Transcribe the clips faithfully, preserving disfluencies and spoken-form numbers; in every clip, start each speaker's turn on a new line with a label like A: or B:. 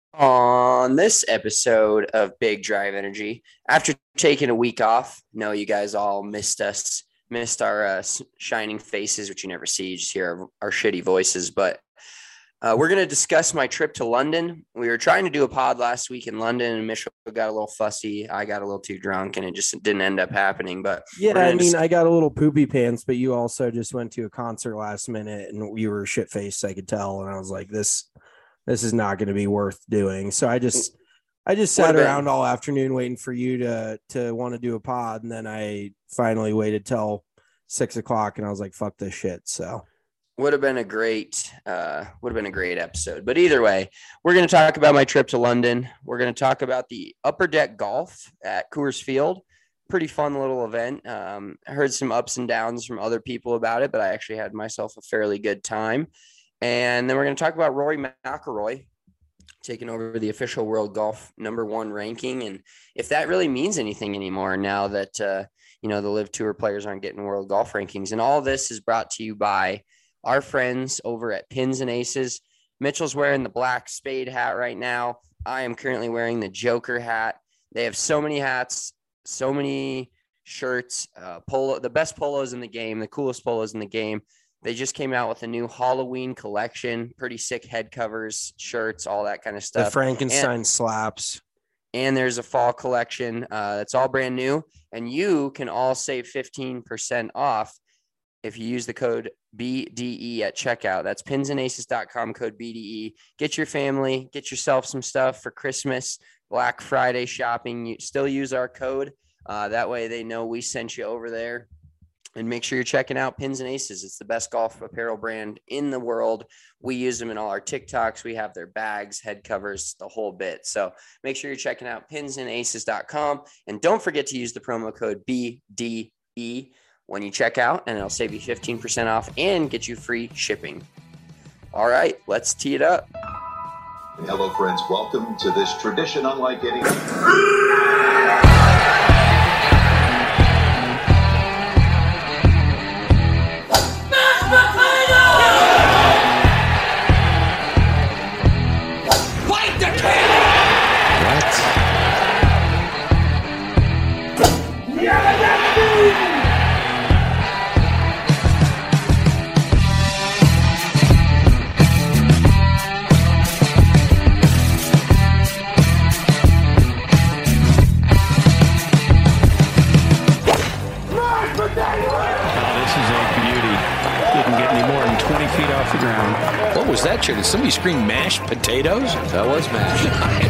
A: On this episode of Big Drive Energy, after taking a week off, no, you guys all missed us, missed our uh, shining faces, which you never see, you just hear our, our shitty voices. But uh, we're going to discuss my trip to London. We were trying to do a pod last week in London, and Mitchell got a little fussy. I got a little too drunk, and it just didn't end up happening. But
B: yeah, I mean, dis- I got a little poopy pants, but you also just went to a concert last minute, and you were shit faced. I could tell, and I was like, this. This is not going to be worth doing. So I just, I just sat around been. all afternoon waiting for you to, to want to do a pod. And then I finally waited till six o'clock and I was like, fuck this shit. So
A: would have been a great, uh, would have been a great episode, but either way, we're going to talk about my trip to London. We're going to talk about the Upper Deck Golf at Coors Field. Pretty fun little event. Um, I heard some ups and downs from other people about it, but I actually had myself a fairly good time. And then we're going to talk about Rory McIlroy taking over the official world golf number one ranking. And if that really means anything anymore now that, uh, you know, the Live Tour players aren't getting world golf rankings. And all this is brought to you by our friends over at Pins and Aces. Mitchell's wearing the black spade hat right now. I am currently wearing the Joker hat. They have so many hats, so many shirts, uh, polo, the best polos in the game, the coolest polos in the game. They just came out with a new Halloween collection, pretty sick head covers, shirts, all that kind of stuff.
B: The Frankenstein and, slaps.
A: And there's a fall collection uh, that's all brand new. And you can all save fifteen percent off if you use the code B D E at checkout. That's pins and aces dot com, code B D E. Get your family, get yourself some stuff for Christmas, Black Friday shopping. You still use our code. Uh, that way they know we sent you over there. And make sure you're checking out Pins and Aces. It's the best golf apparel brand in the world. We use them in all our TikToks. We have their bags, head covers, the whole bit. So make sure you're checking out pins and aces dot com. And don't forget to use the promo code B D E when you check out, and it'll save you fifteen percent off and get you free shipping. All right, let's tee it up.
C: Hello, friends. Welcome to this tradition unlike any.
D: Did somebody scream mashed potatoes?
E: That was mashed.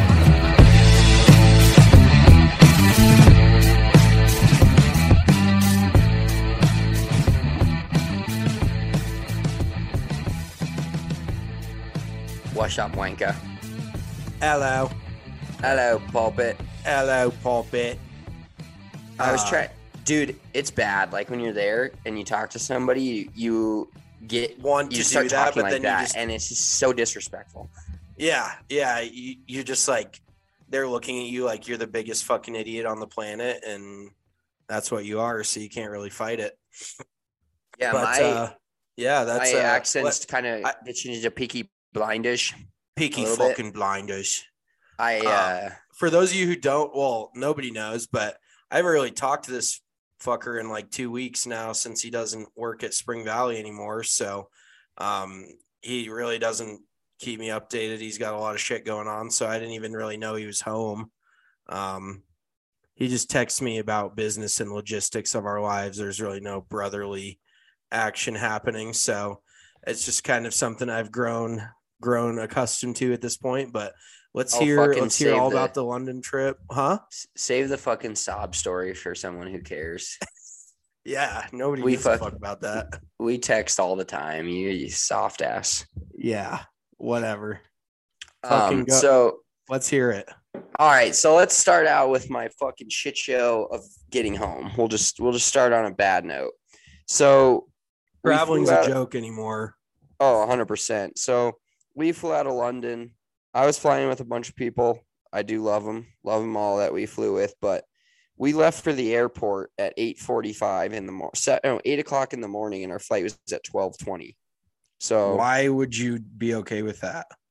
A: What's up, wanker?
B: Hello.
A: Hello, pulpit.
B: Hello, pulpit.
A: I was uh, trying, dude. It's bad. Like when you're there and you talk to somebody, you. you get
B: one
A: you
B: to
A: start
B: do that,
A: talking
B: but
A: like
B: then
A: that,
B: you just,
A: and it's just so disrespectful.
B: Yeah, yeah. You, you're just like they're looking at you like you're the biggest fucking idiot on the planet, and that's what you are. So you can't really fight it.
A: Yeah,
B: but
A: my
B: uh, yeah, that's
A: my
B: uh,
A: accent's kind of gets you into Peaky Blindish.
B: Peaky fucking bit. Blinders.
A: I uh, uh,
B: for those of you who don't, well, nobody knows, but I haven't really talked to this fucker in like two weeks now since he doesn't work at Spring Valley anymore. So um, he really doesn't keep me updated. He's got a lot of shit going on. So I didn't even really know he was home. Um, he just texts me about business and logistics of our lives. There's really no brotherly action happening. So it's just kind of something I've grown, grown accustomed to at this point, but let's
A: I'll
B: hear, let's hear all
A: the,
B: about the London trip. Huh?
A: Save the fucking sob story for someone who cares.
B: Yeah. Nobody
A: we
B: gives fuck, a fuck about that.
A: We text all the time. You, you soft ass.
B: Yeah. Whatever.
A: Um, go. So
B: let's hear it.
A: All right. So let's start out with my fucking shit show of getting home. We'll just, we'll just start on a bad note. So
B: traveling's a joke anymore.
A: Oh, one hundred percent. So we flew out of London. I was flying with a bunch of people. I do love them. Love them all that we flew with. But we left for the airport at eight forty-five in the morning. No, eight o'clock in the morning, and our flight was at twelve twenty. So
B: why would you be okay with that?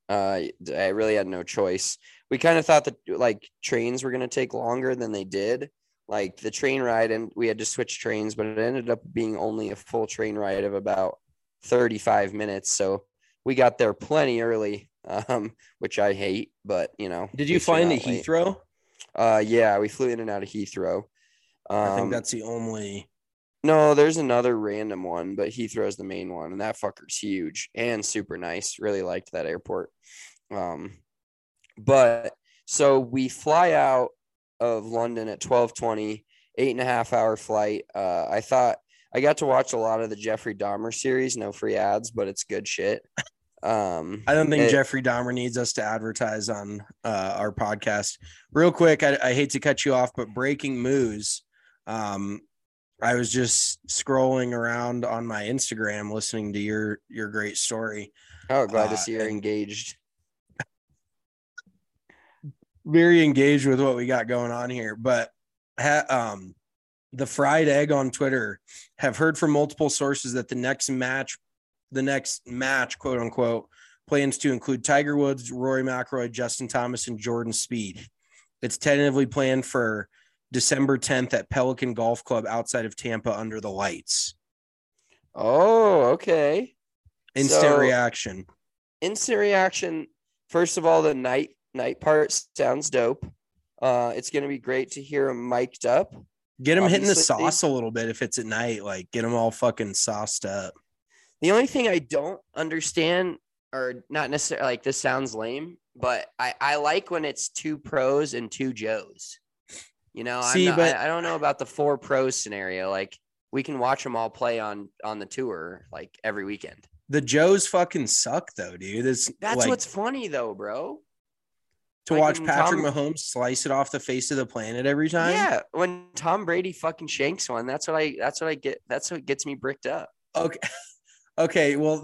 A: Uh, I really had no choice. We kind of thought that like trains were going to take longer than they did. Like the train ride, and we had to switch trains, but it ended up being only a full train ride of about thirty-five minutes. So we got there plenty early, um, which I hate, but you know.
B: Did you fly into Heathrow?
A: Uh, yeah, we flew in and out of Heathrow. Um,
B: I think that's the only.
A: No, there's another random one, but Heathrow's the main one, and that fucker's huge and super nice. Really liked that airport. Um, but so we fly out of London at twelve twenty, eight and a half hour flight. Uh, I thought I got to watch a lot of the Jeffrey Dahmer series. No free ads, but it's good shit. Um,
B: I don't think
A: it,
B: Jeffrey Dahmer needs us to advertise on uh, our podcast. Real quick, I, I hate to cut you off, but breaking news. Um, I was just scrolling around on my Instagram, listening to your your great story.
A: Oh, glad
B: uh,
A: to see you're engaged.
B: Very engaged with what we got going on here, but ha, um, the fried egg on Twitter have heard from multiple sources that the next match, the next match, quote unquote, plans to include Tiger Woods, Rory McIlroy, Justin Thomas, and Jordan Spieth. It's tentatively planned for December tenth at Pelican Golf Club outside of Tampa under the lights.
A: Oh, okay.
B: Instant
A: So,
B: reaction.
A: Instant reaction. First of all, the night night part sounds dope. Uh, it's going to be great to hear him mic'd up.
B: Get him hitting the
A: Obviously-
B: sauce a little bit if it's at night. Like, get them all fucking sauced up.
A: The only thing I don't understand, or not necessarily, like this sounds lame, but I, I like when it's two pros and two Joes. You know,
B: See,
A: I'm not,
B: but-
A: I, I don't know about the four pros scenario. Like we can watch them all play on on the tour like every weekend.
B: The Joes fucking suck, though, dude. It's
A: That's
B: like,
A: what's funny, though, bro.
B: to
A: like
B: watch
A: when
B: Patrick
A: Tom-
B: Mahomes slice it off the face of the planet every time.
A: Yeah, when Tom Brady fucking shanks one, that's what I that's what I get. That's what gets me bricked up.
B: Okay. Okay. Well,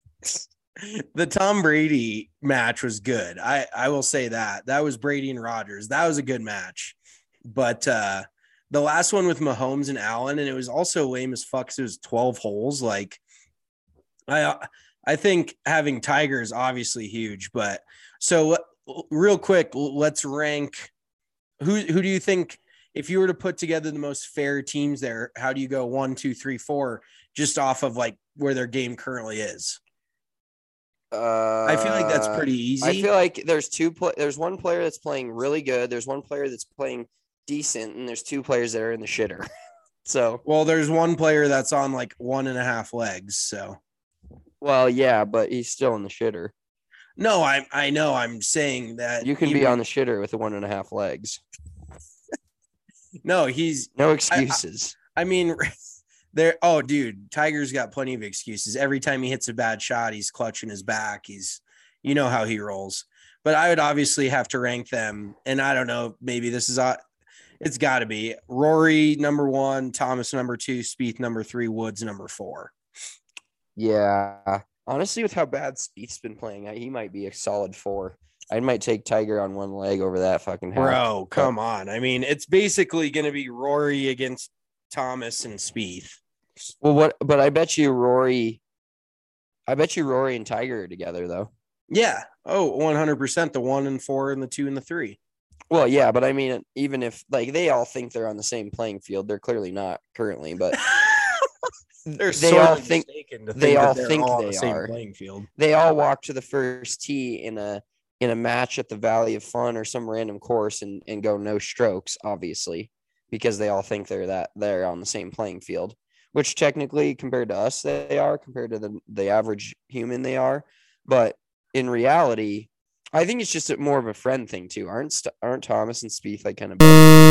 B: the Tom Brady match was good. I, I will say that. That was Brady and Rodgers. That was a good match. But uh, the last one with Mahomes and Allen, and it was also lame as fuck. 'Cause it was twelve holes. Like, I I think having Tiger is obviously huge. But so real quick, let's rank. Who who do you think, if you were to put together the most fair teams there, how do you go one, two, three, four, just off of like where their game currently is?
A: Uh,
B: I feel like that's pretty easy.
A: I feel like there's two. Pl- there's one player that's playing really good. There's one player that's playing decent, and there's two players that are in the shitter. So,
B: well, there's one player that's on like one and a half legs. So,
A: well, yeah, but he's still in the shitter.
B: no, I I know. I'm saying that
A: You can
B: he
A: be
B: would-
A: on the shitter with the one and a half legs.
B: No, he's.
A: No excuses.
B: I mean, there. Oh, dude, Tiger's got plenty of excuses. Every time he hits a bad shot, he's clutching his back. He's, you know how he rolls. But I would obviously have to rank them, and I don't know. Maybe this is uh, it's got to be Rory number one, Thomas number two, Spieth number three, Woods number four.
A: Yeah, honestly, with how bad Spieth's been playing, he might be a solid four. I might take Tiger on one leg over that fucking half.
B: Bro, come on. I mean, it's basically going to be Rory against Thomas and Spieth.
A: Well, what? But I bet you Rory. I bet you Rory and Tiger are together though.
B: Yeah. Oh, one hundred percent. The one and four and the two and the three.
A: Well, yeah, but I mean, even if like they all think they're on the same playing field, they're clearly not currently. But
B: They're
A: they
B: sort
A: all
B: of
A: think
B: mistaken to
A: they
B: that
A: all
B: they're
A: think
B: all on
A: they
B: the same
A: are.
B: playing field.
A: they all walk to the first tee in a in a match at the Valley of Fun or some random course and and go no strokes, obviously, because they all think they're that they're on the same playing field. Which technically, compared to us, they are compared to the the average human, they are. But in reality, I think it's just a, more of a friend thing too. Aren't St- aren't Thomas and Spieth like kind of?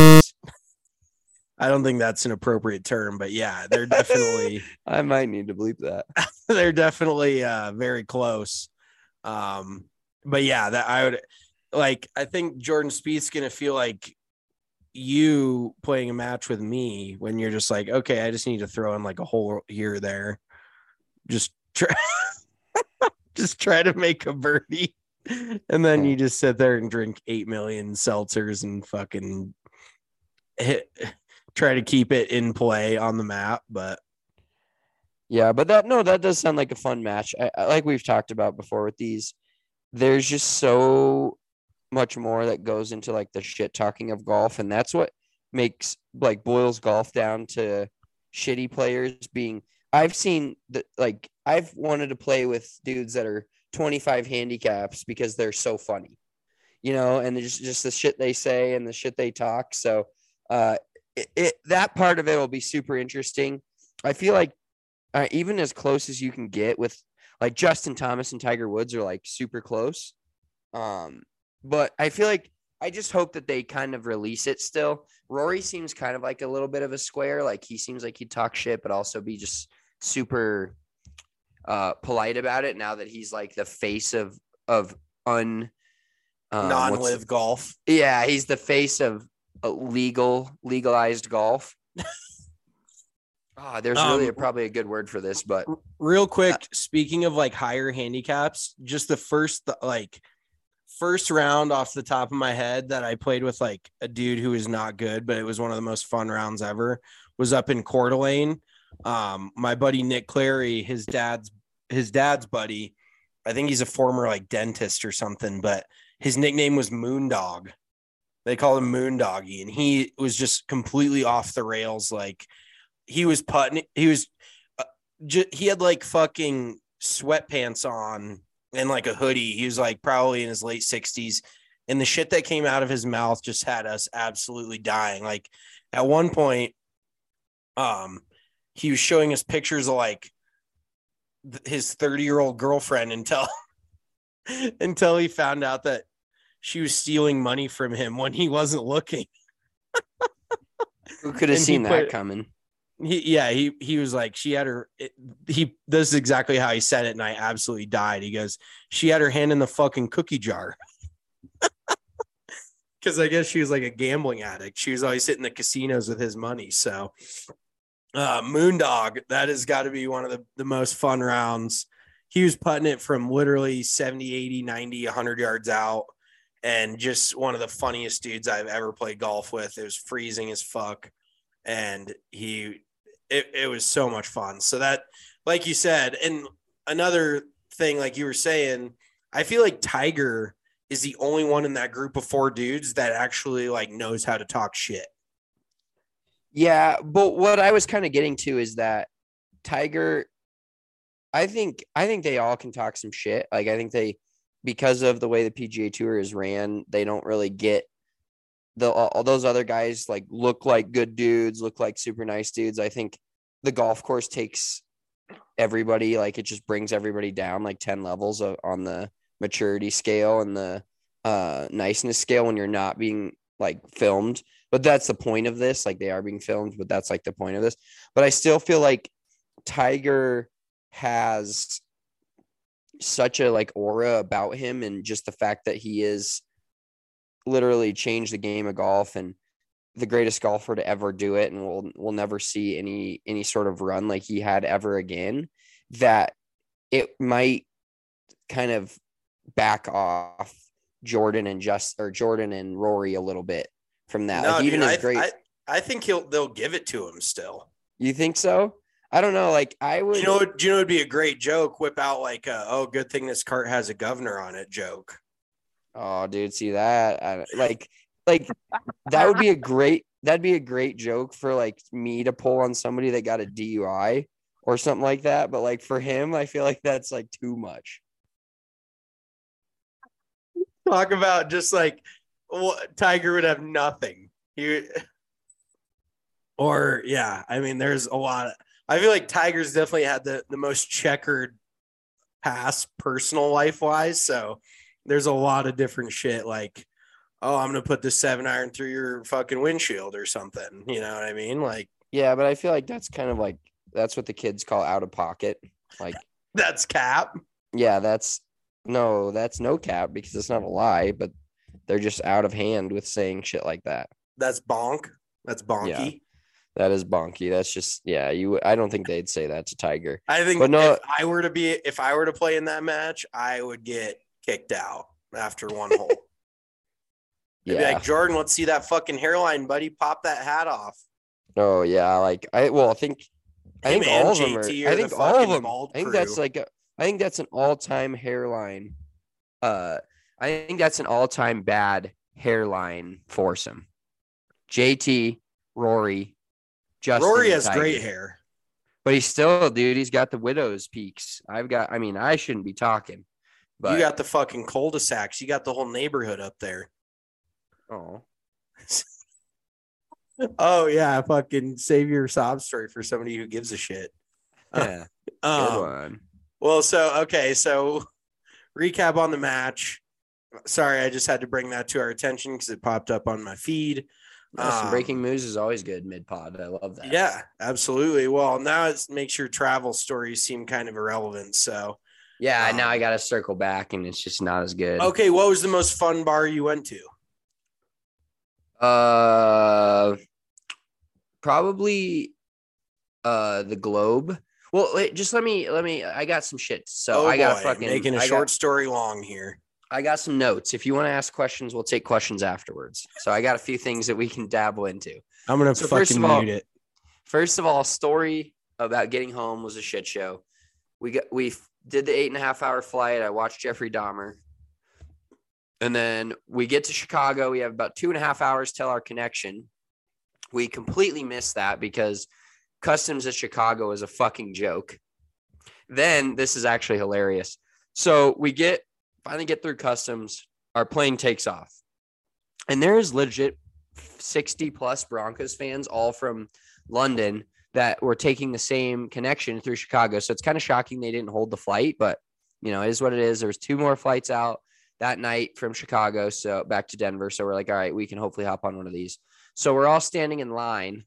B: I don't think that's an appropriate term, but yeah, they're definitely
A: I might need to bleep that.
B: they're definitely uh, very close. Um, but yeah, that I would like. I think Jordan Spieth's gonna feel like you playing a match with me when you're just like, okay, I just need to throw in like a hole here or there, just try, just try to make a birdie, and then you just sit there and drink eight million seltzers and fucking hit. Try to keep it in play on the map, but
A: Yeah, but that no, that does sound like a fun match. I, I like we've talked about before with these. there's just so much more that goes into like the shit talking of golf, and that's what makes like boils golf down to shitty players being. I've seen that, like I've wanted to play with dudes that are twenty-five handicaps because they're so funny, you know, and just just the shit they say and the shit they talk. So uh, it, it that part of it will be super interesting. I feel like uh, even as close as you can get with like Justin Thomas and Tiger Woods are like super close. Um, but I feel like I just hope that they kind of release it still. Rory seems kind of like a little bit of a square. Like he seems like he'd talk shit, but also be just super uh, polite about it now that he's like the face of, of un um,
B: non-live golf.
A: Yeah. He's the face of uh, legal, legalized golf. Oh, there's really
B: Um,
A: a, probably a good word for this, but
B: Real quick, speaking of like higher handicaps, just the first like first round off the top of my head that I played with like a dude who was not good, but it was one of the most fun rounds ever, was up in Coeur d'Alene. Um, my buddy Nick Clary, his dad's his dad's buddy, I think he's a former like dentist or something, but his nickname was Moondog. They called him Moondoggy, and he was just completely off the rails. Like he was putting, he was, uh, j- he had like fucking sweatpants on and like a hoodie. He was like probably in his late sixties, and the shit that came out of his mouth just had us absolutely dying. Like at one point, um, he was showing us pictures of like th- his thirty year old girlfriend until, until he found out that she was stealing money from him when he wasn't looking.
A: who could have
B: And he
A: seen that
B: put-
A: coming?
B: He, yeah, he, he was like, she had her, it, he, this is exactly how he said it. And I absolutely died. He goes, she had her hand in the fucking cookie jar. Cause I guess she was like a gambling addict. She was always hitting the casinos with his money. So, uh, Moondog, that has got to be one of the, the most fun rounds. He was putting it from literally seventy, eighty, ninety, a hundred yards out. And just one of the funniest dudes I've ever played golf with. It was freezing as fuck. And he, It, it was so much fun. So that, like you said, and another thing, like you were saying, I feel like Tiger is the only one in that group of four dudes that actually like knows how to talk shit.
A: Yeah, but what I was kind of getting to is that Tiger, I think I think they all can talk some shit. Like I think they, because of the way the P G A Tour is ran, they don't really get the all those other guys like look like good dudes, look like super nice dudes. I think the golf course takes everybody, like it just brings everybody down like ten levels of, on the maturity scale and the uh, niceness scale when you're not being like filmed. But that's the point of this. Like they are being filmed, but that's like the point of this. But I still feel like Tiger has such a like aura about him, and just the fact that he is literally changed the game of golf and the greatest golfer to ever do it, and we'll we'll never see any any sort of run like he had ever again, that it might kind of back off Jordan and just or Jordan and Rory a little bit from that.
B: No,
A: like even
B: dude,
A: as
B: I,
A: great
B: I, I think he'll they'll give it to him still.
A: You think so? I don't know. Like I would
B: You know, do you know it'd be a great joke? Whip out like a, oh, good thing this cart has a governor on it joke.
A: Oh, dude, see that? I, like, like that would be a great. That'd be a great joke for like me to pull on somebody that got a D U I or something like that. But like for him, I feel like that's like too much.
B: Talk about just like what Tiger would have nothing. He or yeah, I mean, there's a lot of. I feel like Tiger's definitely had the the most checkered past personal life wise. So there's a lot of different shit like, oh, I'm going to put this seven iron through your fucking windshield or something. You know what I mean? Like,
A: Yeah, but I feel like that's kind of like that's what the kids call out of pocket. Like,
B: that's cap.
A: yeah, that's no, that's no cap because it's not a lie, but they're just out of hand with saying shit like that.
B: That's bonk. That's bonky.
A: Yeah. That is bonky. That's just yeah. You, I don't think they'd say that to Tiger.
B: I think
A: But no-
B: if I were to be, if I were to play in that match, I would get kicked out after one hole. They'd be
A: Yeah.
B: like, Jordan, let's see that fucking hairline, buddy. Pop that hat off.
A: Oh yeah. Like I well, I think I
B: Him
A: think
B: and
A: all of them
B: J T
A: are.
B: are
A: I
B: the
A: think all of
B: fucking
A: them.
B: bald
A: I think
B: crew.
A: that's like a. I think that's an all-time hairline Uh, I think that's an all-time bad hairline foursome. J T, Rory, Justin.
B: Rory has
A: Tiger.
B: great hair,
A: but he's still, dude. He's got the widow's peaks. I've got. I mean, I shouldn't be talking, but
B: you got the fucking cul-de-sacs. You got the whole neighborhood up there.
A: oh,
B: Oh yeah, fucking save your sob story for somebody who gives a shit.
A: yeah,
B: Um,
A: good one.
B: Well, so okay, so recap on the match. Sorry, I just had to bring that to our attention because it popped up on my feed.
A: No, some
B: Um,
A: breaking news is always good mid pod. I love that.
B: Yeah, absolutely. Well, now it makes your travel stories seem kind of irrelevant. So
A: yeah.
B: Um,
A: now I got to circle back, and it's just not as good.
B: okay, what was the most fun bar you went to?
A: Uh, probably, uh, the Globe. Well, wait, just let me let me. I got some shit. So
B: oh
A: I got
B: boy,
A: fucking
B: making a
A: I
B: short
A: got,
B: story long here.
A: I got some notes. If you want to ask questions, we'll take questions afterwards. So I got a few things that we can dabble into.
B: I'm gonna
A: So first
B: fucking
A: of all-
B: mute it.
A: First of all, story about getting home was a shit show. We got we did the eight and a half hour flight. I watched Jeffrey Dahmer, and then we get to Chicago. We have about two and a half hours till our connection. We completely missed that because customs at Chicago is a fucking joke. Then this is actually hilarious. So we get finally get through customs. Our plane takes off, and there is legit sixty plus Broncos fans, all from London, that were taking the same connection through Chicago. So it's kind of shocking they didn't hold the flight, but you know, it is what it is. There was two more flights out that night from Chicago, so back to Denver. So we're like, all right, we can hopefully hop on one of these. So we're all standing in line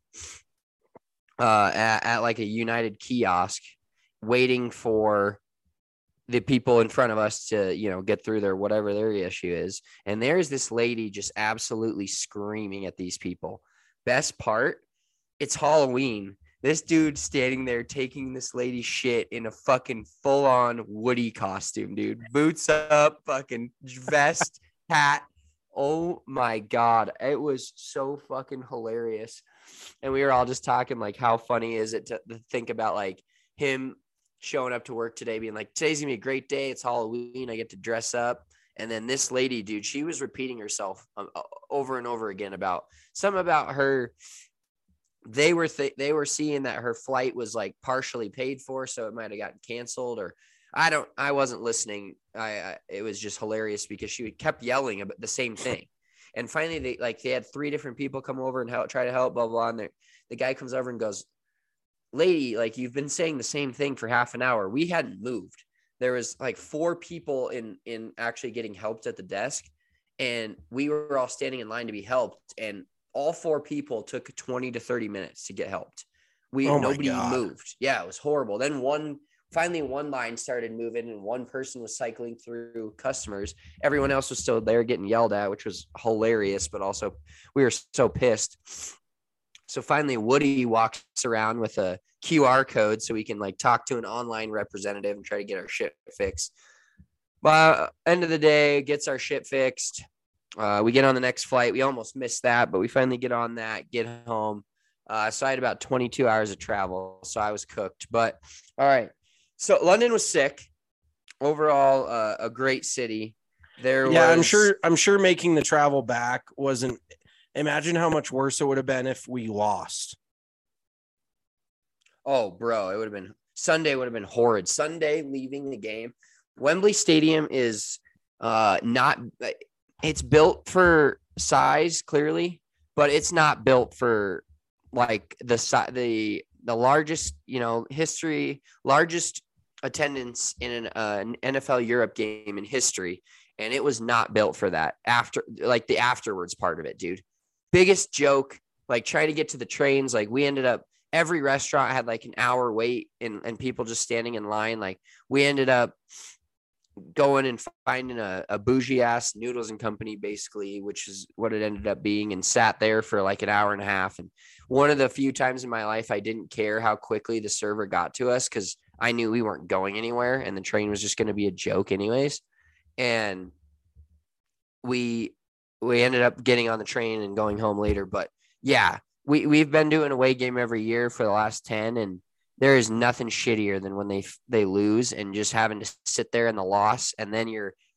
A: uh, at, at like a United kiosk, waiting for the people in front of us to, you know, get through their whatever their issue is. And there's this lady just absolutely screaming at these people. Best part, it's Halloween. This dude standing there taking this lady's shit in a fucking full-on Woody costume, dude. Boots up, fucking vest, hat. Oh my God. It was so fucking hilarious. And we were all just talking like, how funny is it to, to think about like him showing up to work today being like, today's gonna be a great day. It's Halloween. I get to dress up. And then this lady, dude, she was repeating herself um, over and over again about something about her. They were th- they were seeing that her flight was like partially paid for, so it might have gotten canceled, or I don't. I wasn't listening. I, I it was just hilarious because she kept yelling about the same thing, and finally they like they had three different people come over and help try to help. Blah blah. And the guy comes over and goes, "Lady, like you've been saying the same thing for half an hour. We hadn't moved. There was like four people in in actually getting helped at the desk, and we were all standing in line to be helped, and all four people took twenty to thirty minutes to get helped. We
B: Oh my
A: nobody
B: God.
A: moved. Yeah, it was horrible. Then one finally one line started moving and one person was cycling through customers. Everyone else was still there getting yelled at, which was hilarious, but also we were so pissed. So finally Woody walks around with a Q R code so we can like talk to an online representative and try to get our shit fixed. By end of the day, gets our shit fixed. Uh, we get on the next flight. We almost missed that, but we finally get on that, get home. Uh, so I had about twenty-two hours of travel, so I was cooked. But all right. So London was sick. Overall, uh, a great city. There
B: Yeah,
A: was,
B: I'm sure. I'm sure making the travel back wasn't. Imagine how much worse it would have been if we lost.
A: Oh, bro, it would have been Sunday. Would have been horrid. Sunday leaving the game. Wembley Stadium is uh, not. It's built for size, clearly, but it's not built for like the the the largest, you know, history, largest attendance in an, uh, an N F L Europe game in history, and it was not built for that. After like the afterwards part of it, dude, biggest joke. Like trying to get to the trains, like we ended up. Every restaurant had like an hour wait, and and people just standing in line. Like we ended up going and finding a, a bougie ass Noodles and Company, basically, which is what it ended up being, and sat there for like an hour and a half. And one of the few times in my life I didn't care how quickly the server got to us because I knew we weren't going anywhere and the train was just going to be a joke anyways. And we we ended up getting on the train and going home later. But yeah, we, we've been doing an away game every year for the last ten, and there is nothing shittier than when they they lose and just having to sit there in the loss, and then you're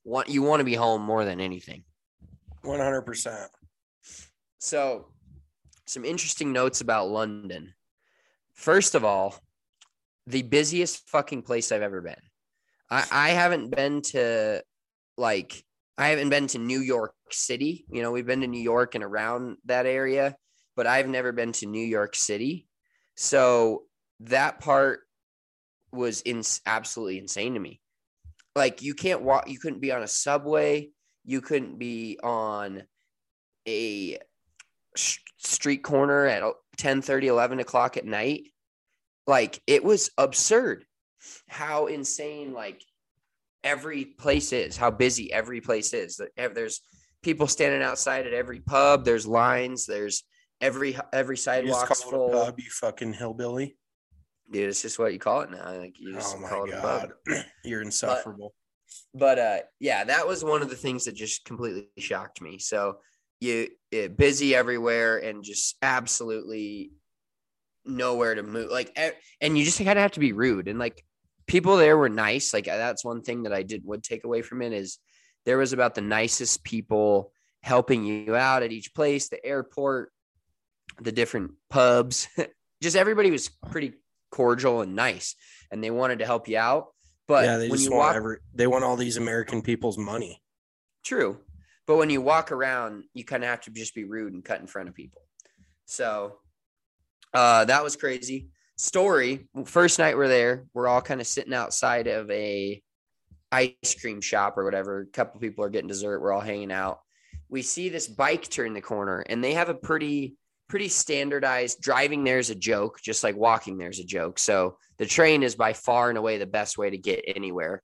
A: want you want to be home more than anything.
B: one hundred percent.
A: So, some interesting notes about London. First of all, the busiest fucking place I've ever been. I, I haven't been to like I haven't been to New York City. You know, we've been to New York and around that area, but I've never been to New York City. So that part was in, absolutely insane to me. Like you can't walk, you couldn't be on a subway. You couldn't be on a street corner at ten thirty, eleven o'clock at night. Like it was absurd how insane like every place is, how busy every place is. There's people standing outside at every pub. There's lines. There's every every sidewalk's full.
B: It a pub, you fucking hillbilly.
A: Dude, it's just what you call it now. Like you just
B: oh my
A: call it
B: God.
A: a pub.
B: You're insufferable.
A: But, but uh, yeah, that was one of the things that just completely shocked me. So you it, busy everywhere and just absolutely nowhere to move. Like, and you just kind of have to be rude. And like people there were nice. Like that's one thing that I did would take away from it is there was about the nicest people helping you out at each place, the airport, the different pubs. Just everybody was pretty cordial and nice, and they wanted to help you out. But
B: yeah, they
A: when
B: just
A: you
B: want
A: walk,
B: every, they want all these American people's money.
A: True. But when you walk around, you kind of have to just be rude and cut in front of people. So uh, that was crazy. Story, first night we're there, we're all kind of sitting outside of a ice cream shop or whatever. A couple people are getting dessert. We're all hanging out. We see this bike turn the corner, and they have a pretty pretty standardized driving. There's a joke, just like walking there's a joke. So the train is by far and away the best way to get anywhere.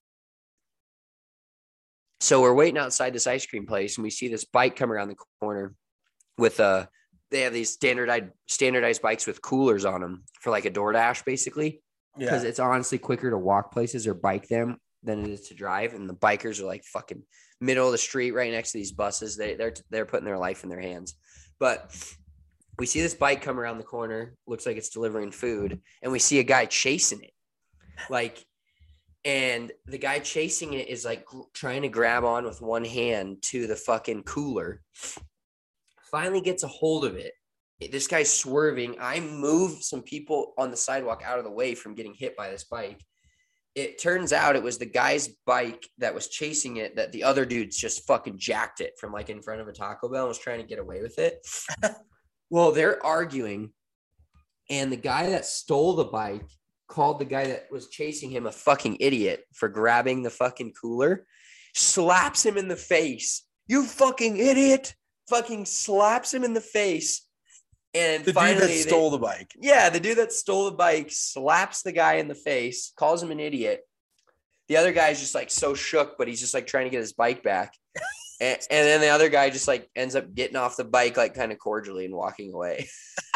A: So we're waiting outside this ice cream place, and we see this bike come around the corner with a, they have these standardized standardized bikes with coolers on them for like a DoorDash, basically. Because yeah. It's honestly quicker to walk places or bike them than it is to drive. And the bikers are like fucking middle of the street right next to these buses. They, they're, they're putting their life in their hands. But we see this bike come around the corner, looks like it's delivering food, and we see a guy chasing it. Like, and the guy chasing it is like trying to grab on with one hand to the fucking cooler. Finally gets a hold of it. This guy's swerving. I move some people on the sidewalk out of the way from getting hit by this bike. It turns out it was the guy's bike that was chasing it that the other dudes just fucking jacked it from like in front of a Taco Bell and was trying to get away with it. Well, they're arguing, and the guy that stole the bike called the guy that was chasing him a fucking idiot for grabbing the fucking cooler, slaps him in the face. You fucking idiot. Fucking slaps him in the face. And
B: the
A: finally,
B: dude that stole
A: they,
B: the bike.
A: Yeah, the dude that stole the bike slaps the guy in the face, calls him an idiot. The other guy's just like so shook, but he's just like trying to get his bike back. and, and then the other guy just like ends up getting off the bike like kind of cordially and walking away.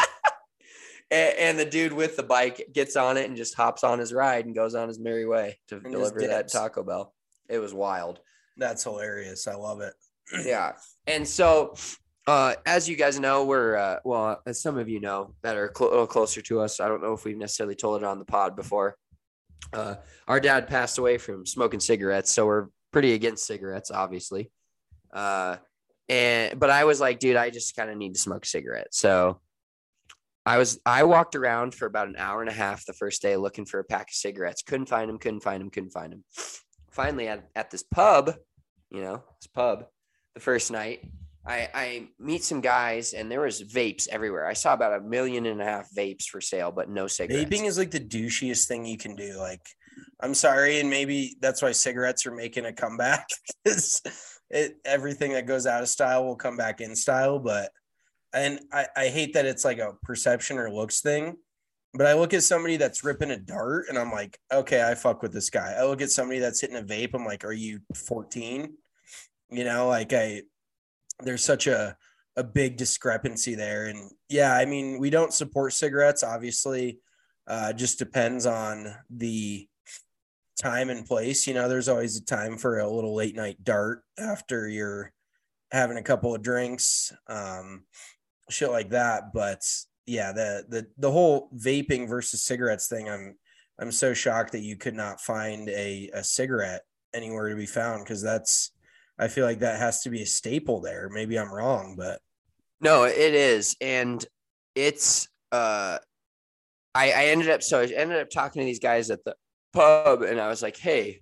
A: and, and the dude with the bike gets on it and just hops on his ride and goes on his merry way to and deliver that Taco Bell. It was wild.
B: That's hilarious. I love it.
A: Yeah. And so uh, as you guys know, we're, uh, well, as some of you know that are cl- a little closer to us, I don't know if we've necessarily told it on the pod before. Uh, our dad passed away from smoking cigarettes. So we're pretty against cigarettes, obviously. Uh, and, but I was like, dude, I just kind of need to smoke a cigarette. So I was, I walked around for about an hour and a half the first day looking for a pack of cigarettes. Couldn't find them, couldn't find them, couldn't find them. Finally at, at this pub, you know, this pub, the first night, I, I meet some guys, and there was vapes everywhere. I saw about a million and a half vapes for sale, but no cigarettes.
B: Vaping is like the douchiest thing you can do. Like, I'm sorry, and maybe that's why cigarettes are making a comeback. it everything that goes out of style will come back in style. But and I, I hate that it's like a perception or looks thing. But I look at somebody that's ripping a dart, and I'm like, okay, I fuck with this guy. I look at somebody that's hitting a vape. I'm like, are you fourteen? You know, like I, there's such a, a big discrepancy there. And yeah, I mean, we don't support cigarettes, obviously. Uh, just depends on the time and place. You know, there's always a time for a little late night dart after you're having a couple of drinks, um, shit like that. But yeah, the, the, the whole vaping versus cigarettes thing, I'm, I'm so shocked that you could not find a, a cigarette anywhere to be found, because that's, I feel like that has to be a staple there. Maybe I'm wrong, but
A: No, it is. And it's, uh, I, I ended up, so I ended up talking to these guys at the pub, and I was like, hey,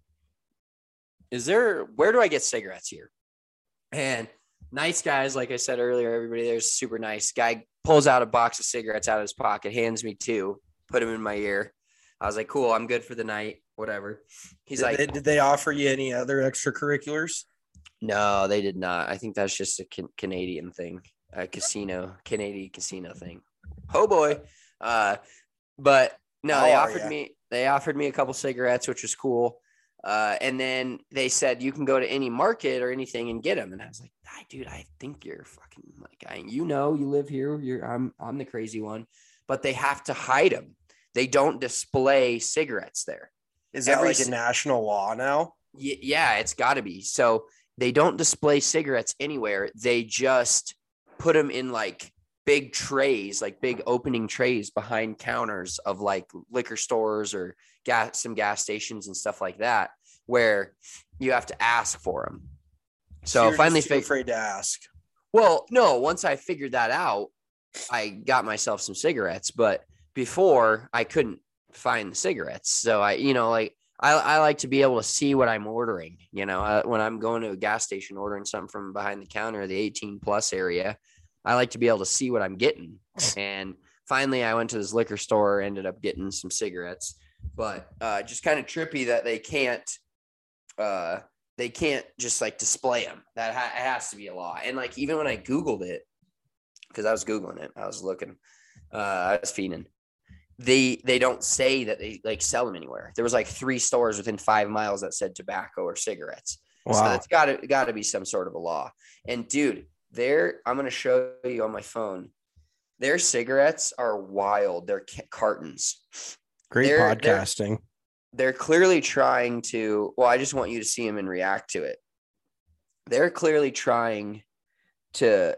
A: is there, where do I get cigarettes here? And nice guys, like I said earlier, everybody there's super nice. Guy pulls out a box of cigarettes out of his pocket, hands me two, put them in my ear. I was like, cool, I'm good for the night, whatever. He's
B: did
A: like,
B: they, did they offer you any other extracurriculars?
A: no, they did not. I think that's just a can- Canadian thing, a casino, Canadian casino thing. Oh boy. Uh, but no,
B: How
A: they
B: are
A: offered
B: ya?
A: me, they offered me a couple cigarettes, which was cool. Uh, and then they said, you can go to any market or anything and get them. And I was like, "Hi, dude, I think you're fucking like, I, you know, you live here. You're, I'm, I'm the crazy one, but they have to hide them. They don't display cigarettes there.
B: Is that
A: Every
B: like a
A: ci-
B: national law now?
A: Y- yeah, it's gotta be. So they don't display cigarettes anywhere. They just put them in like big trays, like big opening trays behind counters of like liquor stores or gas, some gas stations and stuff like that, where you have to ask for them. So
B: you're
A: finally,
B: just too
A: fig-
B: afraid to ask.
A: well, no, once I figured that out, I got myself some cigarettes, but before I couldn't find the cigarettes. So I, you know, like I, I like to be able to see what I'm ordering, you know, uh, when I'm going to a gas station, ordering something from behind the counter, the eighteen plus area, I like to be able to see what I'm getting. And finally I went to this liquor store, ended up getting some cigarettes, but uh, just kind of trippy that they can't, uh, they can't just like display them. That ha- it has to be a law. And like, even when I Googled it, because I was Googling it, I was looking, uh, I was fiending. They, they don't say that they like sell them anywhere. There was like three stores within five miles that said tobacco or cigarettes.
B: Wow.
A: So that's gotta, gotta be some sort of a law. And dude, there, I'm going to show you on my phone. Their cigarettes are wild. They're ca- cartons.
B: Great
A: They're- they're-
B: podcasting.
A: They're clearly trying to, well, I just want you to see them and react to it. They're clearly trying to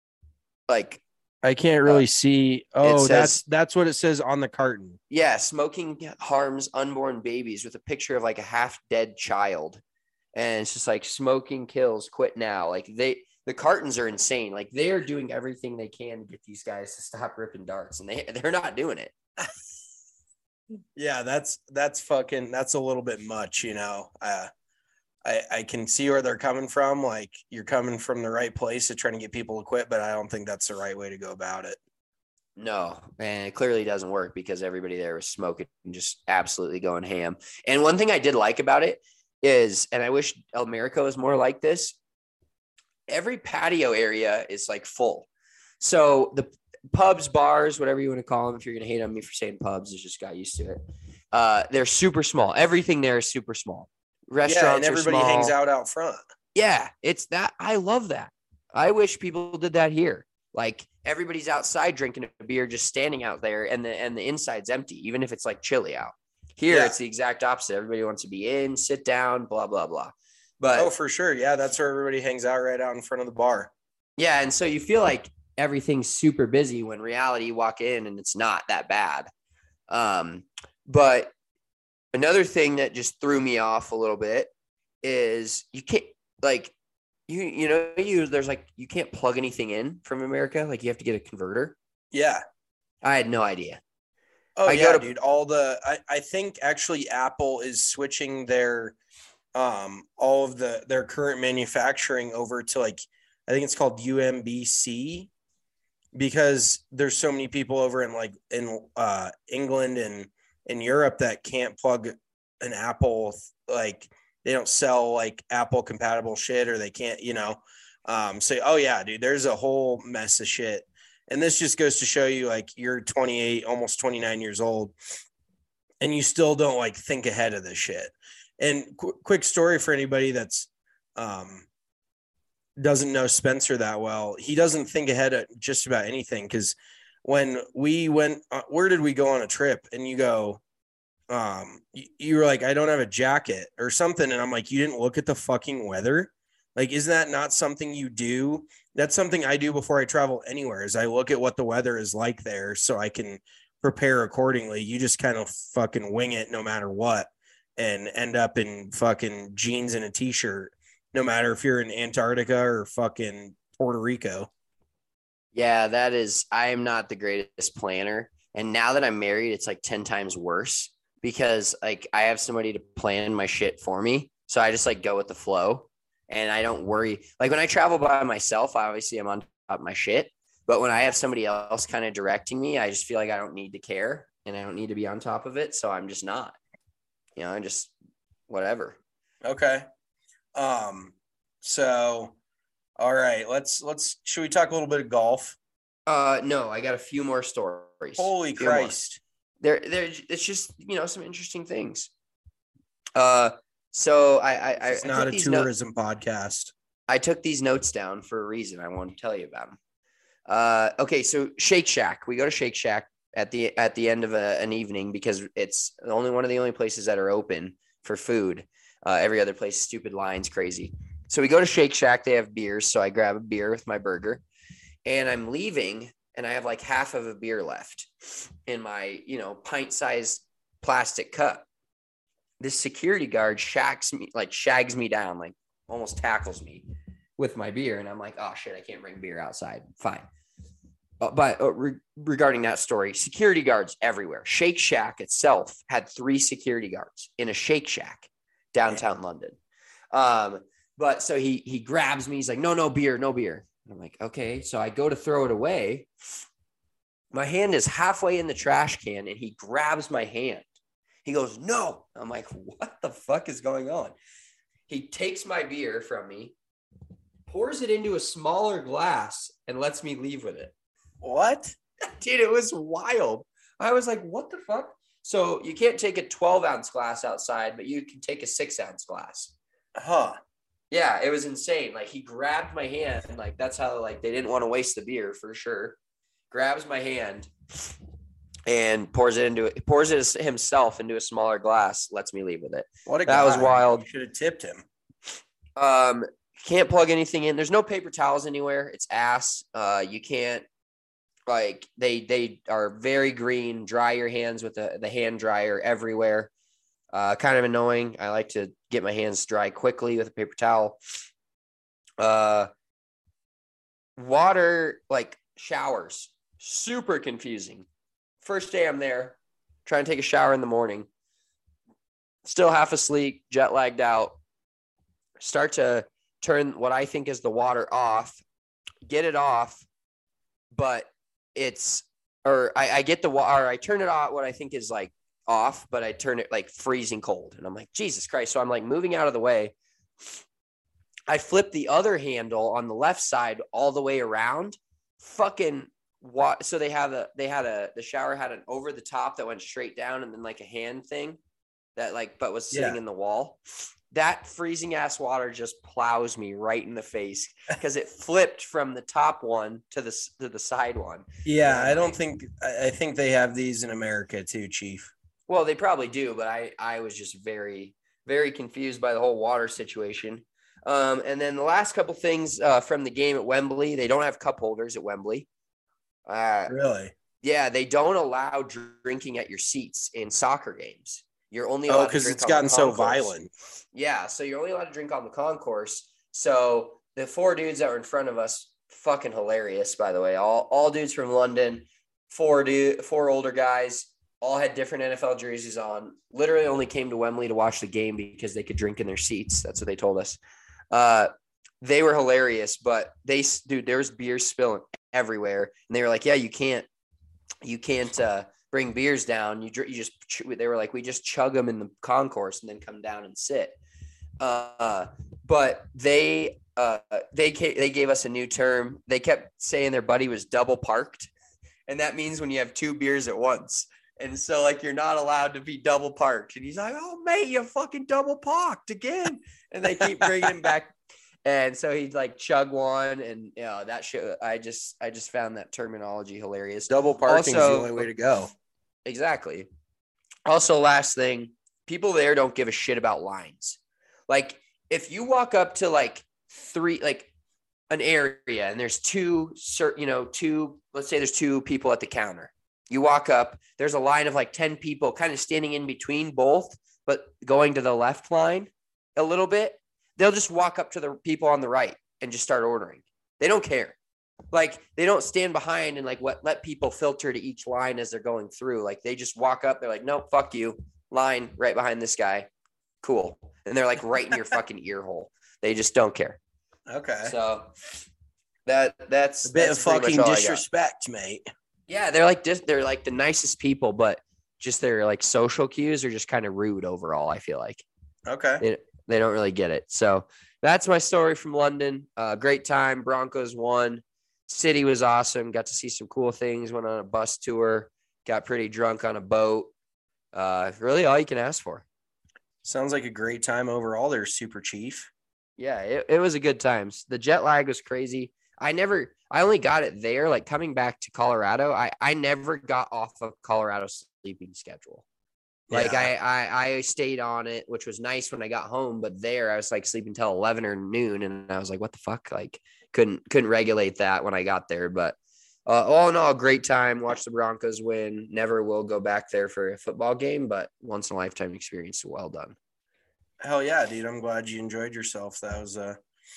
A: like,
B: I can't really
A: uh,
B: see. Oh,
A: says-
B: that's that's what it says on the carton.
A: yeah, smoking harms unborn babies, with a picture of like a half dead child. And it's just like, smoking kills, quit now. Like they, the cartons are insane. Like they're doing everything they can to get these guys to stop ripping darts, and they, they're not doing it.
B: Yeah, that's that's fucking that's a little bit much, you know. Uh, I I can see where they're coming from. Like, you're coming from the right place to trying to get people to quit, but I don't think that's the right way to go about it.
A: No, and it clearly doesn't work because everybody there was smoking and just absolutely going ham. And one thing I did like about it is, and I wish America was more like this, every patio area is like full. So the pubs, bars, whatever you want to call them, if you're going to hate on me for saying pubs, I just got used to it. Uh, they're super small. Everything there is super small. Restaurants
B: Yeah, and everybody
A: are small.
B: hangs out out front.
A: Yeah, it's that. I love that. I wish people did that here. Like, everybody's outside drinking a beer, just standing out there, and the and the inside's empty, even if it's like chilly out. Here,
B: Yeah.
A: it's the exact opposite. Everybody wants to be in, sit down, blah, blah, blah. But
B: Oh, for sure. Yeah, that's where everybody hangs out, right out in front of the bar.
A: yeah, and so you feel like everything's super busy when reality you walk in and it's not that bad. Um, but another thing that just threw me off a little bit is you can't like you you know you there's like you can't plug anything in from America. Like, you have to get a converter.
B: Yeah.
A: I had no idea.
B: Oh,
A: I
B: yeah,
A: go to-
B: dude. All the I, I think actually Apple is switching their um all of the their current manufacturing over to, like, I think it's called U M B C, because there's so many people over in like in uh England and in Europe that can't plug an Apple, like they don't sell like Apple compatible shit, or they can't, you know. Um so oh yeah, dude, there's a whole mess of shit. And this just goes to show you, like, you're twenty-eight, almost twenty-nine years old, and you still don't like think ahead of this shit. And qu- quick story for anybody that's um doesn't know Spencer that well. He doesn't think ahead of just about anything, because when we went, uh, where did we go on a trip? And you go, um, you, you were like, I don't have a jacket or something. And I'm like, you didn't look at the fucking weather? Like, isn't that not something you do? That's something I do before I travel anywhere, is I look at what the weather is like there so I can prepare accordingly. You just kind of fucking wing it no matter what. and end up in fucking jeans and a t-shirt, no matter if you're in Antarctica or fucking Puerto Rico.
A: Yeah, that is, I am not the greatest planner. And now that I'm married, it's like ten times worse because like I have somebody to plan my shit for me. So I just like go with the flow and I don't worry. Like when I travel by myself, obviously I'm on top of my shit. But when I have somebody else kind of directing me, I just feel like I don't need to care and I don't need to be on top of it. So I'm just not, you know, I'm just whatever.
B: Okay. Um, so, all right, let's, let's, should we talk a little bit of golf?
A: Uh, no, I got a few more stories.
B: Holy Christ.
A: There, there, it's just, you know, some interesting things. Uh, so I, I, I
B: It's
A: I
B: not
A: took
B: a
A: these
B: tourism
A: no-
B: podcast.
A: I took these notes down for a reason. I want to tell you about them. Uh, okay. So Shake Shack, we go to Shake Shack at the, at the end of a, an evening because it's only one of the only places that are open for food. Uh, every other place, stupid lines, crazy. So we go to Shake Shack. They have beers. So I grab a beer with my burger and I'm leaving and I have like half of a beer left in my, you know, pint-sized plastic cup. This security guard shacks me, like shags me down, like almost tackles me with my beer. And I'm like, oh shit, I can't bring beer outside. Fine. Uh, but uh, re- regarding that story, security guards everywhere. Shake Shack itself had three security guards in a Shake Shack downtown yeah. London. Um, but so he, he grabs me. He's like, no, no beer, no beer. And I'm like, okay. So I go to throw it away. My hand is halfway in the trash can and he grabs my hand. He goes, no. I'm like, what the fuck is going on? He takes my beer from me, pours it into a smaller glass, and lets me leave with it.
B: What?
A: Dude, it was wild. I was like, what the fuck? So you can't take a twelve ounce glass outside, but you can take a six ounce glass.
B: Huh.
A: Yeah, it was insane. Like he grabbed my hand and like, that's how like they didn't want to waste the beer for sure. Grabs my hand and pours it into it, pours it himself into a smaller glass, lets me leave with it.
B: What a
A: that
B: guy.
A: was wild.
B: You should have tipped him.
A: Um, can't plug anything in. There's no paper towels anywhere. It's ass. Uh, you can't like they they are very green. Dry your hands with the, the hand dryer everywhere. Uh, kind of annoying. I like to get my hands dry quickly with a paper towel. Uh, water like showers, super confusing. First day I'm there, trying to take a shower in the morning, still half asleep, jet lagged out, start to turn what I think is the water off, get it off, but it's, or I, I get the water, I turn it off, what I think is like off, but I turn it like freezing cold. And I'm like, Jesus Christ. So I'm like moving out of the way. I flip the other handle on the left side all the way around, fucking what? So they have a, they had a, the shower had an over the top that went straight down and then like a hand thing that like, but was sitting yeah. in the wall. That freezing ass water just plows me right in the face because it flipped from the top one to the, to the side one.
B: Yeah. I don't think, I think they have these in America too, Chief.
A: Well, they probably do, but I, I was just very, very confused by the whole water situation. Um, and then the last couple things uh, from the game at Wembley, they don't have cup holders at Wembley. Uh,
B: really?
A: Yeah, they don't allow drinking at your seats in soccer games. You're only allowed
B: oh, because
A: to drink
B: it's
A: on
B: gotten
A: the
B: so
A: concourse.
B: violent.
A: Yeah, so you're only allowed to drink on the concourse. So the four dudes that were in front of us, fucking hilarious, by the way. All all dudes from London, four dude, four older guys, all had different N F L jerseys on. Literally only came to Wembley to watch the game because they could drink in their seats. That's what they told us. Uh, they were hilarious, but they, dude, there was beer spilling everywhere. And they were like, yeah, you can't, you can't uh, bring beers down. You, you just, they were like, we just chug them in the concourse and then come down and sit. Uh, but they, uh, they, they gave us a new term. They kept saying their buddy was double parked. And that means when you have two beers at once. And so, like, you're not allowed to be double parked. And he's like, oh, mate, you fucking double parked again. And they keep bringing him back. And so he'd, like, chug one. And, you know, that shit, I just I just found that terminology hilarious.
B: Double parking also, is the only way to go.
A: Exactly. Also, last thing, people there don't give a shit about lines. Like, if you walk up to, like, three, like, an area and there's two, you know, two, let's say there's two people at the counter. You walk up, there's a line of like ten people kind of standing in between both. but going to the left line a little bit, they'll just walk up to the people on the right and just start ordering. They don't care. Like, they don't stand behind and like what let people filter to each line as they're going through. Like, they just walk up. They're like, nope, fuck you. Line right behind this guy. Cool. And they're like right in your fucking ear hole. They just don't care.
B: Okay.
A: So that that's
B: a bit
A: that's
B: of fucking disrespect, mate.
A: Yeah, they're like dis- they're like the nicest people, but just their like social cues are just kind of rude overall, I feel like.
B: Okay.
A: They, they don't really get it. So that's my story from London. Uh, great time. Broncos won. City was awesome. Got to see some cool things. Went on a bus tour. Got pretty drunk on a boat. Uh, really all you can ask for.
B: Sounds like a great time overall there, Super Chief.
A: Yeah, it, it was a good time. The jet lag was crazy. I never, I only got it there. Like coming back to Colorado, I, I never got off of Colorado's sleeping schedule. Like
B: Yeah.
A: I, I, I stayed on it, which was nice when I got home. But there, I was like sleeping till eleven or noon, and I was like, "What the fuck?" Like couldn't couldn't regulate that when I got there. But uh, all in all, great time. Watch the Broncos win. Never will go back there for a football game, but once in a lifetime experience. Well done.
B: Hell yeah, dude! I'm glad you enjoyed yourself. That was uh,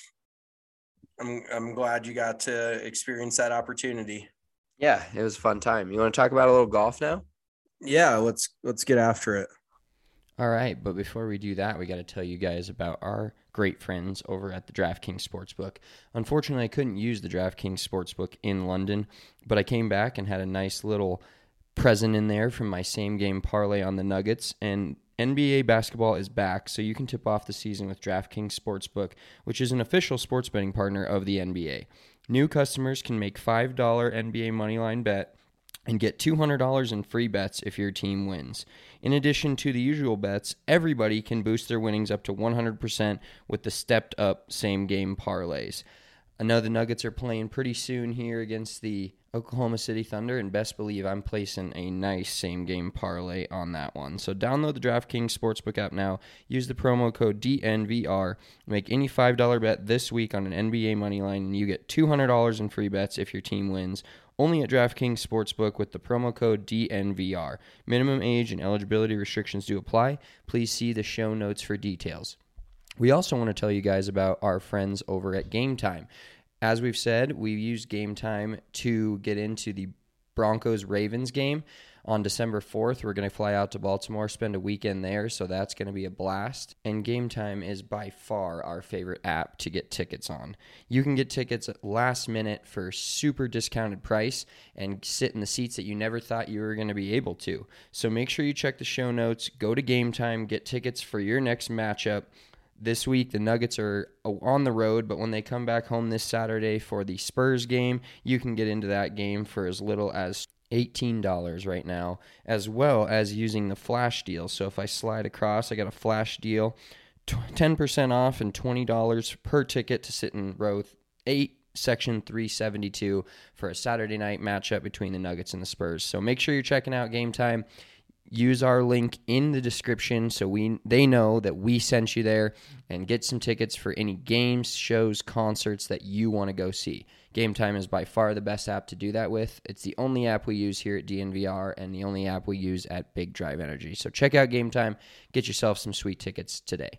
B: I'm I'm glad you got to experience that opportunity.
A: Yeah, it was a fun time. You want to talk about a little golf now?
B: Yeah, let's let's get after it.
E: All right, but before we do that, we got to tell you guys about our great friends over at the DraftKings Sportsbook. Unfortunately, I couldn't use the DraftKings Sportsbook in London, but I came back and had a nice little present in there from my same game parlay on the Nuggets, and N B A basketball is back, so you can tip off the season with DraftKings Sportsbook, which is an official sports betting partner of the N B A. New customers can make five dollars N B A Moneyline bet and get two hundred dollars in free bets if your team wins. In addition to the usual bets, everybody can boost their winnings up to one hundred percent with the stepped-up same-game parlays. I know the Nuggets are playing pretty soon here against the Oklahoma City Thunder, and best believe I'm placing a nice same-game parlay on that one. So download the DraftKings Sportsbook app now, use the promo code D N V R, make any five dollars bet this week on an N B A Moneyline, and you get two hundred dollars in free bets if your team wins. Only at DraftKings Sportsbook with the promo code D N V R. Minimum age and eligibility restrictions do apply. Please see the show notes for details. We also want to tell you guys about our friends over at Game Time. As we've said, we used Game Time to get into the Broncos-Ravens game on December fourth. We're going to fly out to Baltimore, spend a weekend there, so that's going to be a blast. And Game Time is by far our favorite app to get tickets on. You can get tickets at last minute for super discounted price and sit in the seats that you never thought you were going to be able to. So make sure you check the show notes, go to Game Time, get tickets for your next matchup. This week, the Nuggets are on the road, but when they come back home this Saturday for the Spurs game, you can get into that game for as little as eighteen dollars right now, as well as using the flash deal. So if I slide across, I got a flash deal, ten percent off and twenty dollars per ticket to sit in row eight, section three seventy-two for a Saturday night matchup between the Nuggets and the Spurs. So make sure you're checking out Game Time. Use our link in the description so we they know that we sent you there, and get some tickets for any games, shows, concerts that you want to go see. Game Time is by far the best app to do that with. It's the only app we use here at D N V R and the only app we use at Big Drive Energy. So check out Game Time. Get yourself some sweet tickets today.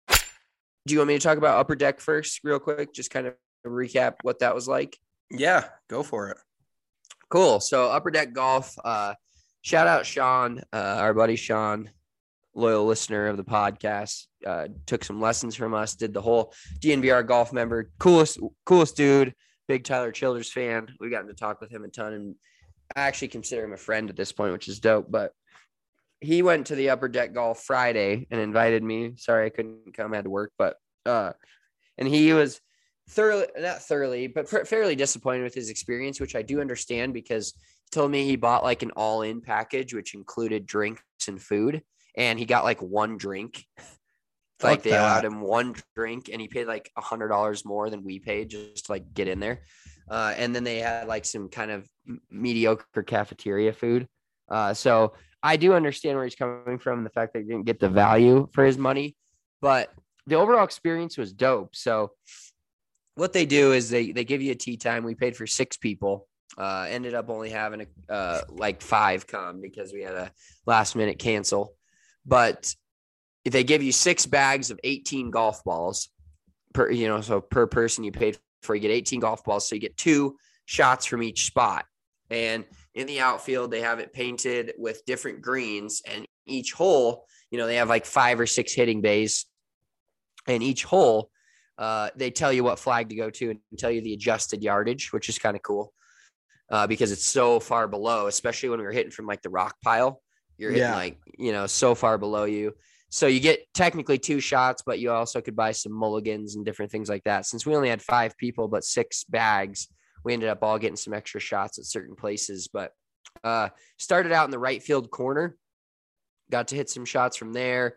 A: Do you want me to talk about Upper Deck first real quick? Just kind of recap what that was like.
B: Yeah, go for it.
A: Cool. So Upper Deck Golf, uh, shout out Sean, uh, our buddy Sean, loyal listener of the podcast, uh, took some lessons from us, did the whole D N V R golf member, coolest, coolest dude, big Tyler Childers fan. We got to talk with him a ton, and I actually consider him a friend at this point, which is dope. But he went to the Upper Deck Golf Friday and invited me. Sorry, I couldn't come, I had to work, but, uh, and he was thoroughly, not thoroughly, but fairly disappointed with his experience, which I do understand, because he told me he bought like an all-in package, which included drinks and food, and he got like one drink. Like they allowed him one drink, and he paid like a hundred dollars more than we paid just to like get in there. Uh, and then they had like some kind of mediocre cafeteria food. Uh, so I do understand where he's coming from, and the fact that he didn't get the value for his money, but the overall experience was dope. So what they do is they, they give you a tee time. We paid for six people, uh, ended up only having a, uh, like five come because we had a last minute cancel, but they give you six bags of eighteen golf balls per, you know, so per person you paid for, you get eighteen golf balls. So you get two shots from each spot. And in the outfield, they have it painted with different greens, and each hole, you know, they have like five or six hitting bays, and each hole, uh, they tell you what flag to go to and tell you the adjusted yardage, which is kind of cool uh, because it's so far below, especially when we were hitting from like the rock pile. You're hitting
B: Yeah.
A: like, you know, so far below you. So you get technically two shots, but you also could buy some mulligans and different things like that. Since we only had five people, but six bags, we ended up all getting some extra shots at certain places. But uh, started out in the right field corner, got to hit some shots from there.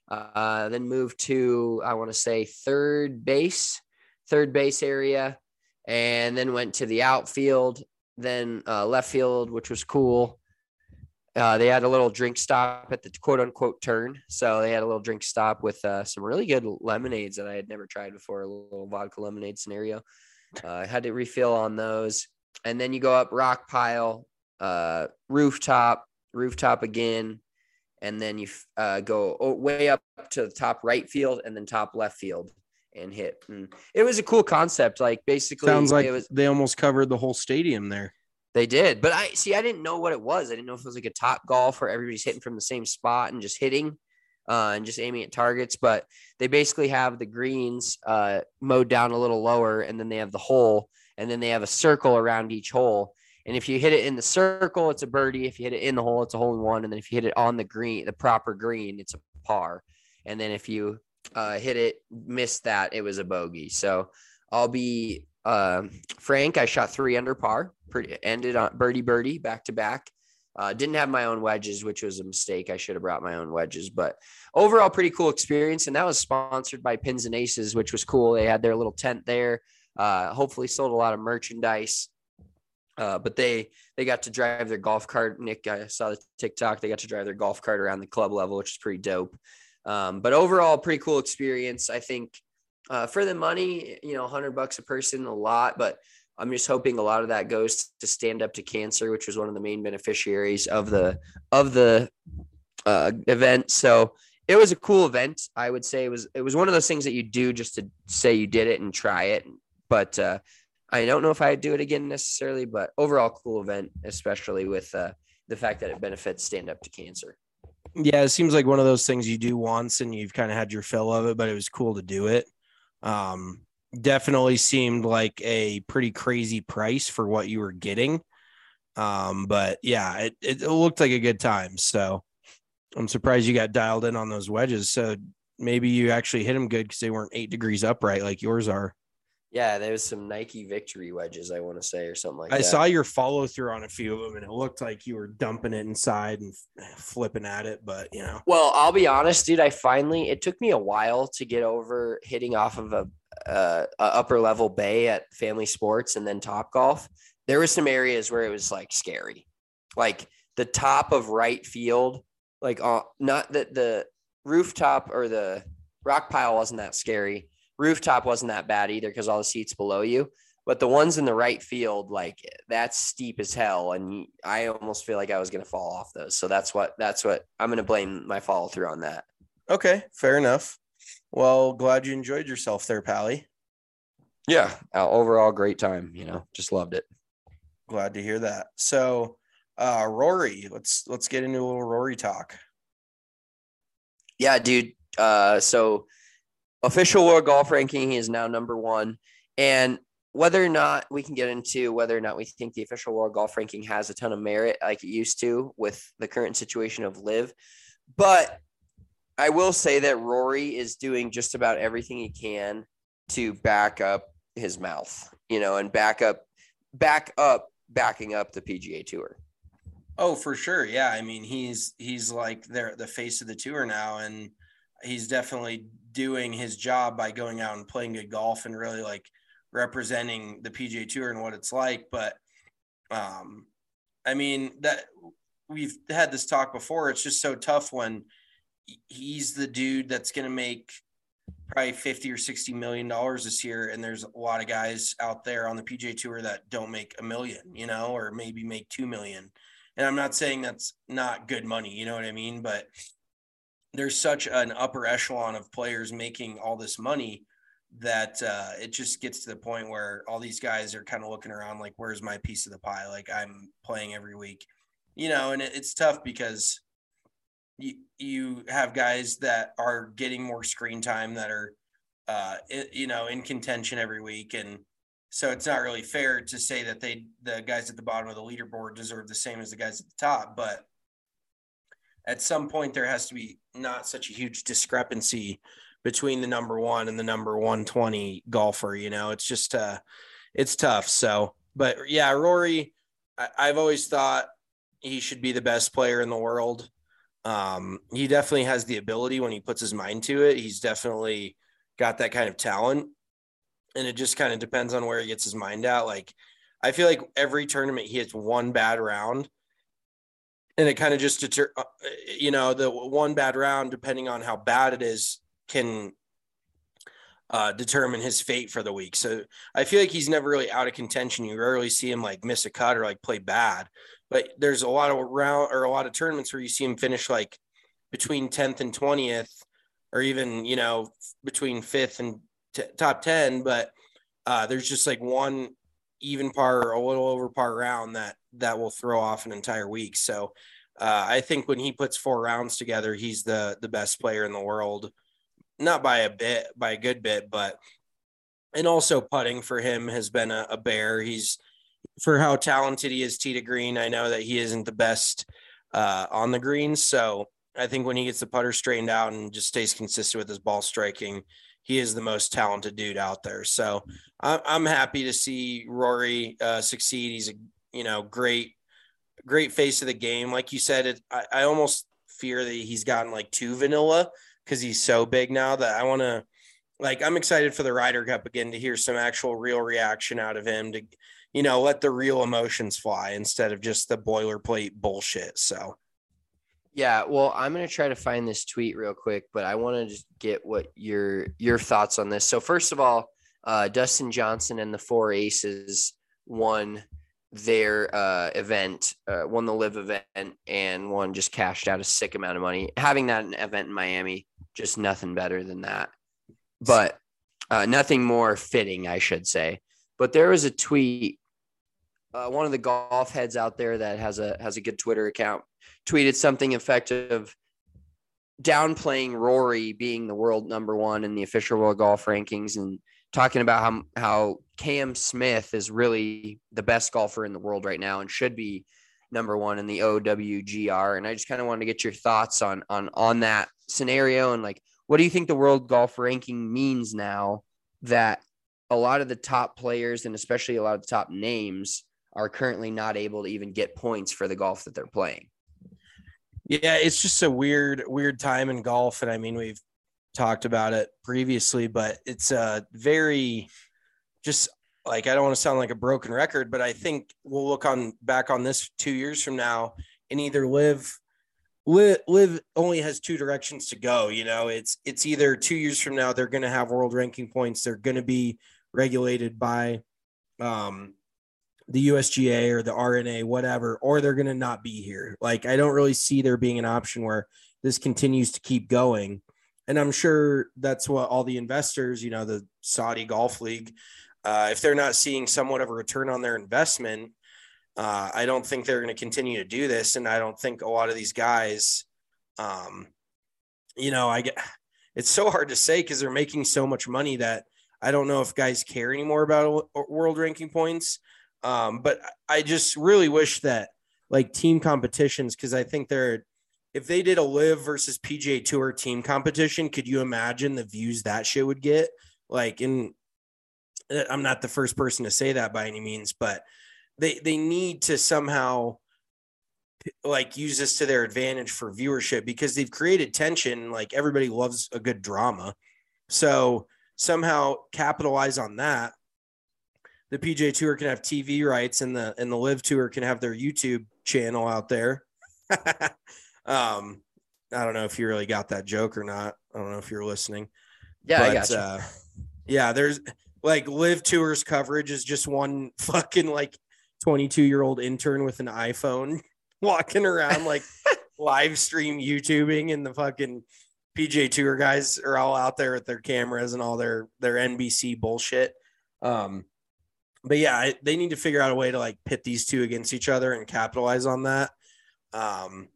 A: Uh, then moved to, I want to say third base, third base area, and then went to the outfield, then uh, left field, which was cool. Uh, they had a little drink stop at the quote unquote turn. So they had a little drink stop with uh, some really good lemonades that I had never tried before, a little vodka lemonade scenario. Uh, I had to refill on those. And then you go up rock pile, uh, rooftop, rooftop again. And then you uh, go way up to the top right field and then top left field and hit. And it was a cool concept. Like basically
B: Sounds like
A: it was,
B: they almost covered the whole stadium there.
A: they did, but I see, I didn't know what it was. I didn't know if it was like a top golf where everybody's hitting from the same spot and just hitting uh, and just aiming at targets. But they basically have the greens uh, mowed down a little lower, and then they have the hole, and then they have a circle around each hole. And if you hit it in the circle, it's a birdie. If you hit it in the hole, it's a hole in one. And then if you hit it on the green, the proper green, it's a par. And then if you uh, hit it, missed that, it was a bogey. So I'll be uh, frank. I shot three under par. Pretty ended on birdie birdie back to back. Uh, didn't have my own wedges, which was a mistake. I should have brought my own wedges, but overall pretty cool experience. And that was sponsored by Pins and Aces, which was cool. They had their little tent there. Uh, hopefully sold a lot of merchandise. Uh, but they they got to drive their golf cart. Nick, I saw the TikTok. They got to drive their golf cart around the club level, which is pretty dope. Um, but overall, pretty cool experience. I think uh, for the money, you know, a hundred bucks a person, a lot. But I'm just hoping a lot of that goes to Stand Up to Cancer, which was one of the main beneficiaries of the of the uh, event. So it was a cool event. I would say it was it was one of those things that you do just to say you did it and try it. But uh, I don't know if I'd do it again necessarily, but overall cool event, especially with uh, the fact that it benefits Stand Up to Cancer.
B: Yeah, it seems like one of those things you do once and you've kind of had your fill of it, but it was cool to do it. Um, definitely seemed like a pretty crazy price for what you were getting. Um, but yeah, it, it looked like a good time. So I'm surprised you got dialed in on those wedges. So maybe you actually hit them good because they weren't eight degrees upright like yours are.
A: Yeah, there was some Nike Victory wedges, I want to say, or something like
B: I
A: that.
B: saw your follow through on a few of them, and it looked like you were dumping it inside and flipping at it. But you know,
A: Well, I'll be honest, dude. I finally, it took me a while to get over hitting off of a, uh, a upper level bay at Family Sports and then Top Golf. There were some areas where it was like scary, like the top of right field, like uh, not that the rooftop or the rock pile wasn't that scary. Rooftop wasn't that bad either because all the seats below you, but the ones in the right field, like that's steep as hell. And I almost feel like I was going to fall off those. So that's what, that's what I'm going to blame my follow through on that.
B: okay, fair enough. Well, glad you enjoyed yourself there, Pally.
A: Yeah. Uh, overall, great time. You know, just loved it.
B: Glad to hear that. So, uh, Rory, let's let's get into a little Rory talk.
A: Yeah, dude. Uh, so official world golf ranking, he is now number one. And whether or not we can get into whether or not we think the official world golf ranking has a ton of merit like it used to with the current situation of Liv. But I will say that Rory is doing just about everything he can to back up his mouth, you know, and back up, back up, backing up the P G A Tour.
B: Oh, for sure. Yeah. I mean, he's he's like they're the face of the tour now, and he's definitely doing his job by going out and playing good golf and really like representing the P G A Tour and what it's like. But um, I mean, that we've had this talk before. It's just so tough when he's the dude that's going to make probably fifty or sixty million dollars this year. And there's a lot of guys out there on the P G A Tour that don't make a million, you know, or maybe make two million. And I'm not saying that's not good money, you know what I mean? But there's such an upper echelon of players making all this money that uh, it just gets to the point where all these guys are kind of looking around like, where's my piece of the pie? Like, I'm playing every week, you know, and it, it's tough because you, you have guys that are getting more screen time that are, uh, it, you know, in contention every week. And so it's not really fair to say that they, the guys at the bottom of the leaderboard deserve the same as the guys at the top, but at some point there has to be not such a huge discrepancy between the number one and the number one twenty golfer. You know, it's just, uh, it's tough. So, but yeah, Rory, I, I've always thought he should be the best player in the world. Um, he definitely has the ability when he puts his mind to it. He's definitely got that kind of talent, and it just kind of depends on where he gets his mind at. Like, I feel like every tournament he hits one bad round, and it kind of just deter, you know, the one bad round, depending on how bad it is, can uh, determine his fate for the week. So I feel like he's never really out of contention. You rarely see him like miss a cut or like play bad, but there's a lot of round or a lot of tournaments where you see him finish like between tenth and twentieth, or even, you know, between fifth and t- top ten. But uh, there's just like one even par or a little over par round that, that will throw off an entire week. So uh, I think when he puts four rounds together, he's the, the best player in the world. Not by a bit, by a good bit, but, and also putting for him has been a, a bear. He's, for how talented he is tee to green, I know that he isn't the best uh, on the greens. So I think when he gets the putter straightened out and just stays consistent with his ball striking, he is the most talented dude out there. So I'm, I'm happy to see Rory uh, succeed. He's a, you know, great, great face of the game. Like you said, it, I, I almost fear that he's gotten like too vanilla, because he's so big now that I want to, like, I'm excited for the Ryder Cup again to hear some actual real reaction out of him, to, you know, let the real emotions fly instead of just the boilerplate bullshit. So,
A: yeah, well, I'm going to try to find this tweet real quick, but I want to just get what your, your thoughts on this. So first of all, uh, Dustin Johnson and the Four Aces won their uh, event, uh, won the live event, and one just cashed out a sick amount of money. Having that event in Miami, just nothing better than that, but uh, nothing more fitting, I should say. But there was a tweet. Uh, one of the golf heads out there that has a has a good Twitter account tweeted something effective, downplaying Rory being the world number one in the official world golf rankings, and talking about how how Cam Smith is really the best golfer in the world right now and should be number one in the O W G R. And I just kind of wanted to get your thoughts on on on that scenario, and like, what do you think the world golf ranking means now that a lot of the top players and especially a lot of the top names are currently not able to even get points for the golf that they're playing?
B: Yeah, it's just a weird, weird time in golf. And I mean, we've talked about it previously, but it's a very just like, I don't want to sound like a broken record, but I think we'll look on back on this two years from now and either live Live, live only has two directions to go. You know, it's, it's either two years from now, they're going to have world ranking points. They're going to be regulated by um, the U S G A or the R N A, whatever, or they're going to not be here. Like, I don't really see there being an option where this continues to keep going. And I'm sure that's what all the investors, you know, the Saudi Golf League, uh, if they're not seeing somewhat of a return on their investment, Uh, I don't think they're going to continue to do this. And I don't think a lot of these guys, um, you know, I get, it's so hard to say because they're making so much money that I don't know if guys care anymore about world ranking points. Um, but I just really wish that like team competitions, because I think they're, if they did a live versus P G A Tour team competition, could you imagine the views that shit would get? Like, in, I'm not the first person to say that by any means, but They they need to somehow like use this to their advantage for viewership, because they've created tension. Like, everybody loves a good drama. So somehow capitalize on that. The P G A Tour can have T V rights, and the and the Live Tour can have their YouTube channel out there. um, I don't know if you really got that joke or not. I don't know if you're listening.
A: Yeah,
B: but,
A: I got you.
B: Uh, yeah, there's like Live Tour's coverage is just one fucking like twenty-two year old intern with an iPhone walking around like live stream YouTubing, and the fucking P G A Tour guys are all out there with their cameras and all their their N B C bullshit. Um, but yeah, they need to figure out a way to like pit these two against each other and capitalize on that. Um,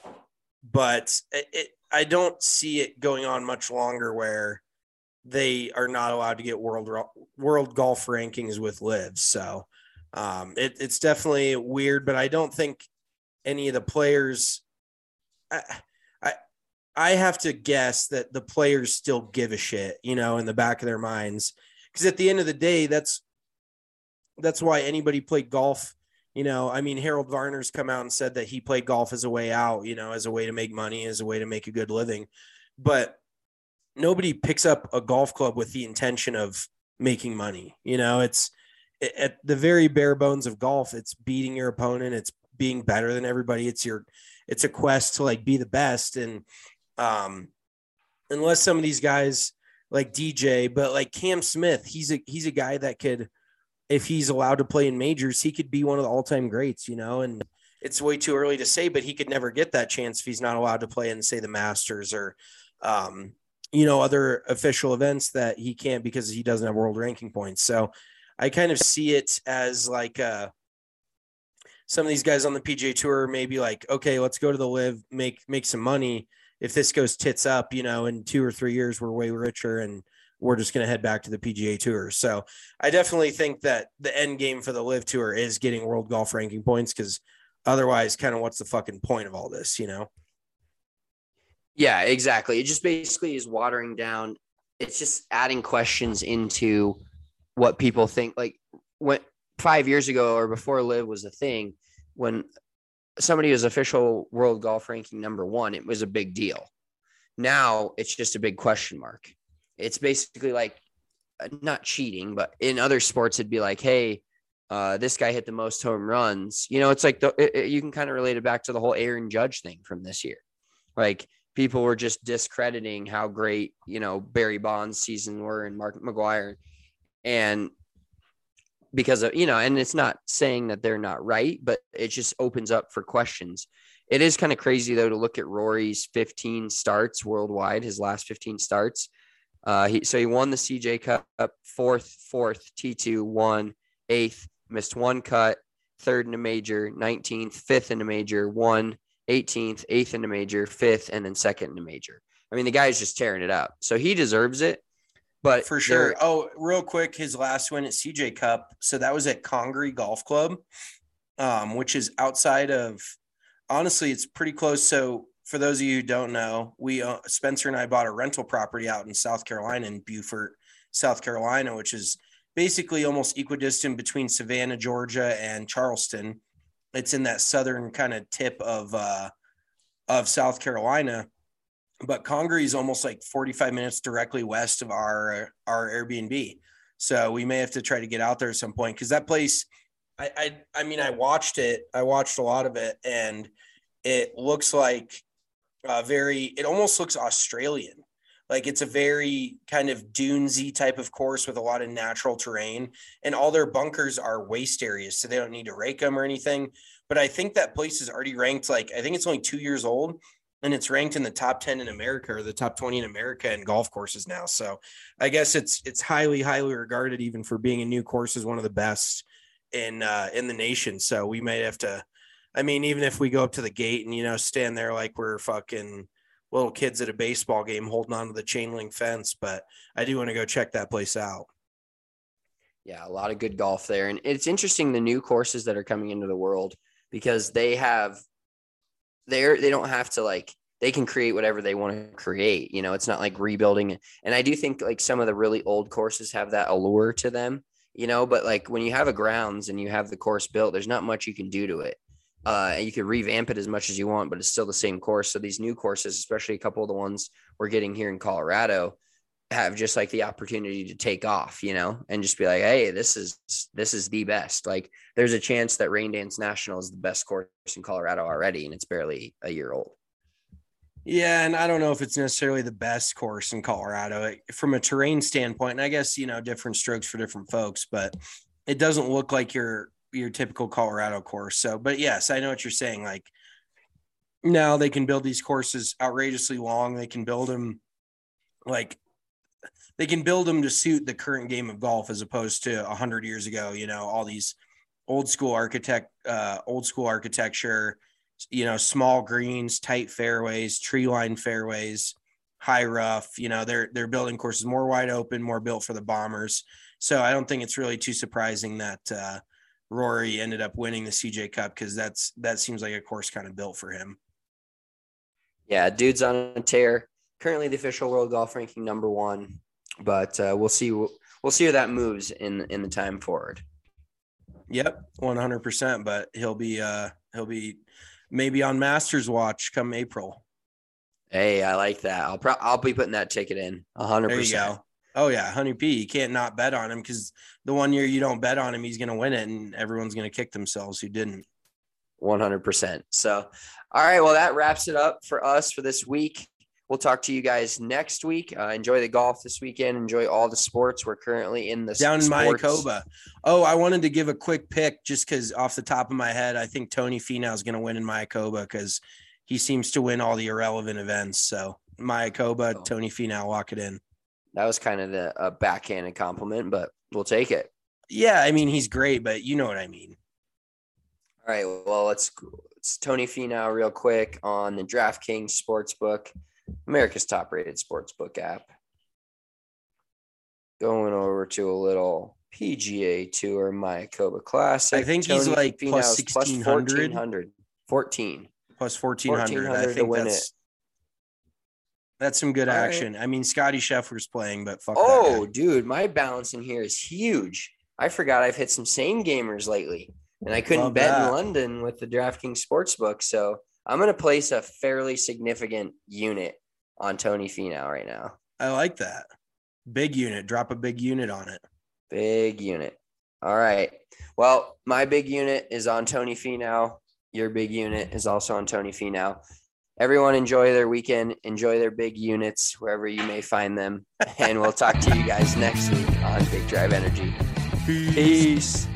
B: but it, it, I don't see it going on much longer where they are not allowed to get world world golf rankings with Liv. So um, it, it's definitely weird, but I don't think any of the players. I, I I have to guess that the players still give a shit, you know, in the back of their minds, because at the end of the day, that's that's why anybody played golf. You know, I mean, Harold Varner's come out and said that he played golf as a way out, you know, as a way to make money, as a way to make a good living, but nobody picks up a golf club with the intention of making money. You know, it's at the very bare bones of golf. It's beating your opponent. It's being better than everybody. It's your, it's a quest to like be the best. And um, unless some of these guys like D J, but like Cam Smith, he's a, he's a guy that could, if he's allowed to play in majors, he could be one of the all-time greats, you know, and it's way too early to say, but he could never get that chance if he's not allowed to play in, say, the Masters or, um, you know, other official events that he can't because he doesn't have world ranking points. So I kind of see it as like uh, some of these guys on the P G A Tour may be like, okay, let's go to the Liv, make make some money. If this goes tits up, you know, in two or three years, we're way richer and we're just going to head back to the P G A Tour. So I definitely think that the end game for the Liv Tour is getting world golf ranking points, because otherwise, kind of what's the fucking point of all this, you know?
A: Yeah, exactly. It just basically is watering down. It's just adding questions into what people think. Like when five years ago or before Liv was a thing, when somebody was official world golf ranking number one, it was a big deal. Now it's just a big question mark. It's basically like not cheating, but in other sports, it'd be like, hey, uh, this guy hit the most home runs. You know, it's like the, it, it, you can kind of relate it back to the whole Aaron Judge thing from this year. Like people were just discrediting how great, you know, Barry Bonds' season were and Mark McGwire. And because of, you know, and it's not saying that they're not right, but it just opens up for questions. It is kind of crazy, though, to look at Rory's fifteen starts worldwide, his last fifteen starts. Uh, he, so he won the C J Cup, fourth, fourth, T two, one, eighth, missed one cut, third in a major, nineteenth, fifth in a major, one, eighteenth, eighth in a major, fifth, and then second in a major. I mean, the guy's just tearing it up. So he deserves it. But
B: for sure. Oh, real quick, his last win at C J Cup. So that was at Congaree Golf Club, um, which is outside of, honestly, it's pretty close. So for those of you who don't know, we, uh, Spencer and I bought a rental property out in South Carolina, in Beaufort, South Carolina, which is basically almost equidistant between Savannah, Georgia, and Charleston. It's in that southern kind of tip of, uh, of South Carolina. But Congaree is almost like forty-five minutes directly west of our, our Airbnb. So we may have to try to get out there at some point, because that place, I, I, I mean, I watched it. I watched a lot of it, and it looks like a very, it almost looks Australian. Like it's a very kind of dunesy type of course with a lot of natural terrain, and all their bunkers are waste areas, so they don't need to rake them or anything. But I think that place is already ranked, like, I think it's only two years old, and it's ranked in the top ten in America, or the top twenty in America in golf courses now. So I guess it's, it's highly, highly regarded, even for being a new course, as one of the best in, uh, in the nation. So we might have to, I mean, even if we go up to the gate and, you know, stand there like we're fucking little kids at a baseball game holding on to the chain link fence, but I do want to go check that place out.
A: Yeah, a lot of good golf there. And it's interesting, the new courses that are coming into the world, because they have, they're, they don't have to, like, they can create whatever they want to create. You know, it's not like rebuilding. And I do think like some of the really old courses have that allure to them, you know, but like when you have a grounds and you have the course built, there's not much you can do to it. Uh, and you can revamp it as much as you want, but it's still the same course. So these new courses, especially a couple of the ones we're getting here in Colorado, have just like the opportunity to take off, you know, and just be like, hey, this is, this is the best. Like there's a chance that Rain Dance National is the best course in Colorado already, and it's barely a year old.
B: Yeah. And I don't know if it's necessarily the best course in Colorado from a terrain standpoint. And I guess, you know, different strokes for different folks, but it doesn't look like your, your typical Colorado course. So, but yes, I know what you're saying. Like Now they can build these courses outrageously long. They can build them like they can build them to suit the current game of golf as opposed to a hundred years ago. You know, all these old school architect, uh, old school architecture, you know, small greens, tight fairways, tree line fairways, high rough. You know, they're they're building courses more wide open, more built for the bombers. So I don't think it's really too surprising that uh, Rory ended up winning the C J Cup, because that's that seems like a course kind of built for him.
A: Yeah, dude's on a tear. Currently the official world golf ranking number one, but uh, we'll see. We'll see where that moves in in the time forward.
B: Yep, one hundred percent. But he'll be uh, he'll be maybe on Masters watch come April.
A: Hey, I like that. I'll pro- I'll be putting that ticket in one hundred percent.
B: There you go. Oh yeah, Honey P. You can't not bet on him, because the one year you don't bet on him, he's going to win it, and everyone's going to kick themselves who didn't.
A: one hundred percent. So, all right. Well, that wraps it up for us for this week. We'll talk to you guys next week. Uh, enjoy the golf this weekend. Enjoy all the sports. We're currently in the
B: down in
A: sports.
B: Mayakoba. Oh, I wanted to give a quick pick just because off the top of my head, I think Tony Finau is going to win in Mayakoba because he seems to win all the irrelevant events. So Mayakoba, oh. Tony Finau, lock it in.
A: That was kind of the a backhanded compliment, but we'll take it.
B: Yeah, I mean, he's great, but you know what I mean.
A: All right, well, let's it's Tony Finau real quick on the DraftKings Sportsbook, America's top-rated sportsbook app. Going over to a little P G A Tour Mayakoba Classic.
B: I think
A: Tony
B: he's like
A: Finau's
B: plus sixteen hundred.
A: fourteen hundred. fourteen.
B: Plus fourteen hundred. I think
A: to win
B: that's,
A: it.
B: That's some good
A: All
B: action.
A: right.
B: I mean, Scotty Scheffler's playing, but fuck
A: Oh,
B: that guy.
A: dude, my balance in here is huge. I forgot I've hit some same gamers lately. And I couldn't
B: Love
A: bet
B: that.
A: in London with the DraftKings Sportsbook. So I'm going to place a fairly significant unit on Tony Finau right now.
B: I like that. Big unit. Drop a big unit on it.
A: Big unit. All right. Well, my big unit is on Tony Finau. Your big unit is also on Tony Finau. Everyone enjoy their weekend. Enjoy their big units wherever you may find them. And we'll talk to you guys next week on Big Drive Energy.
B: Peace.
A: Peace.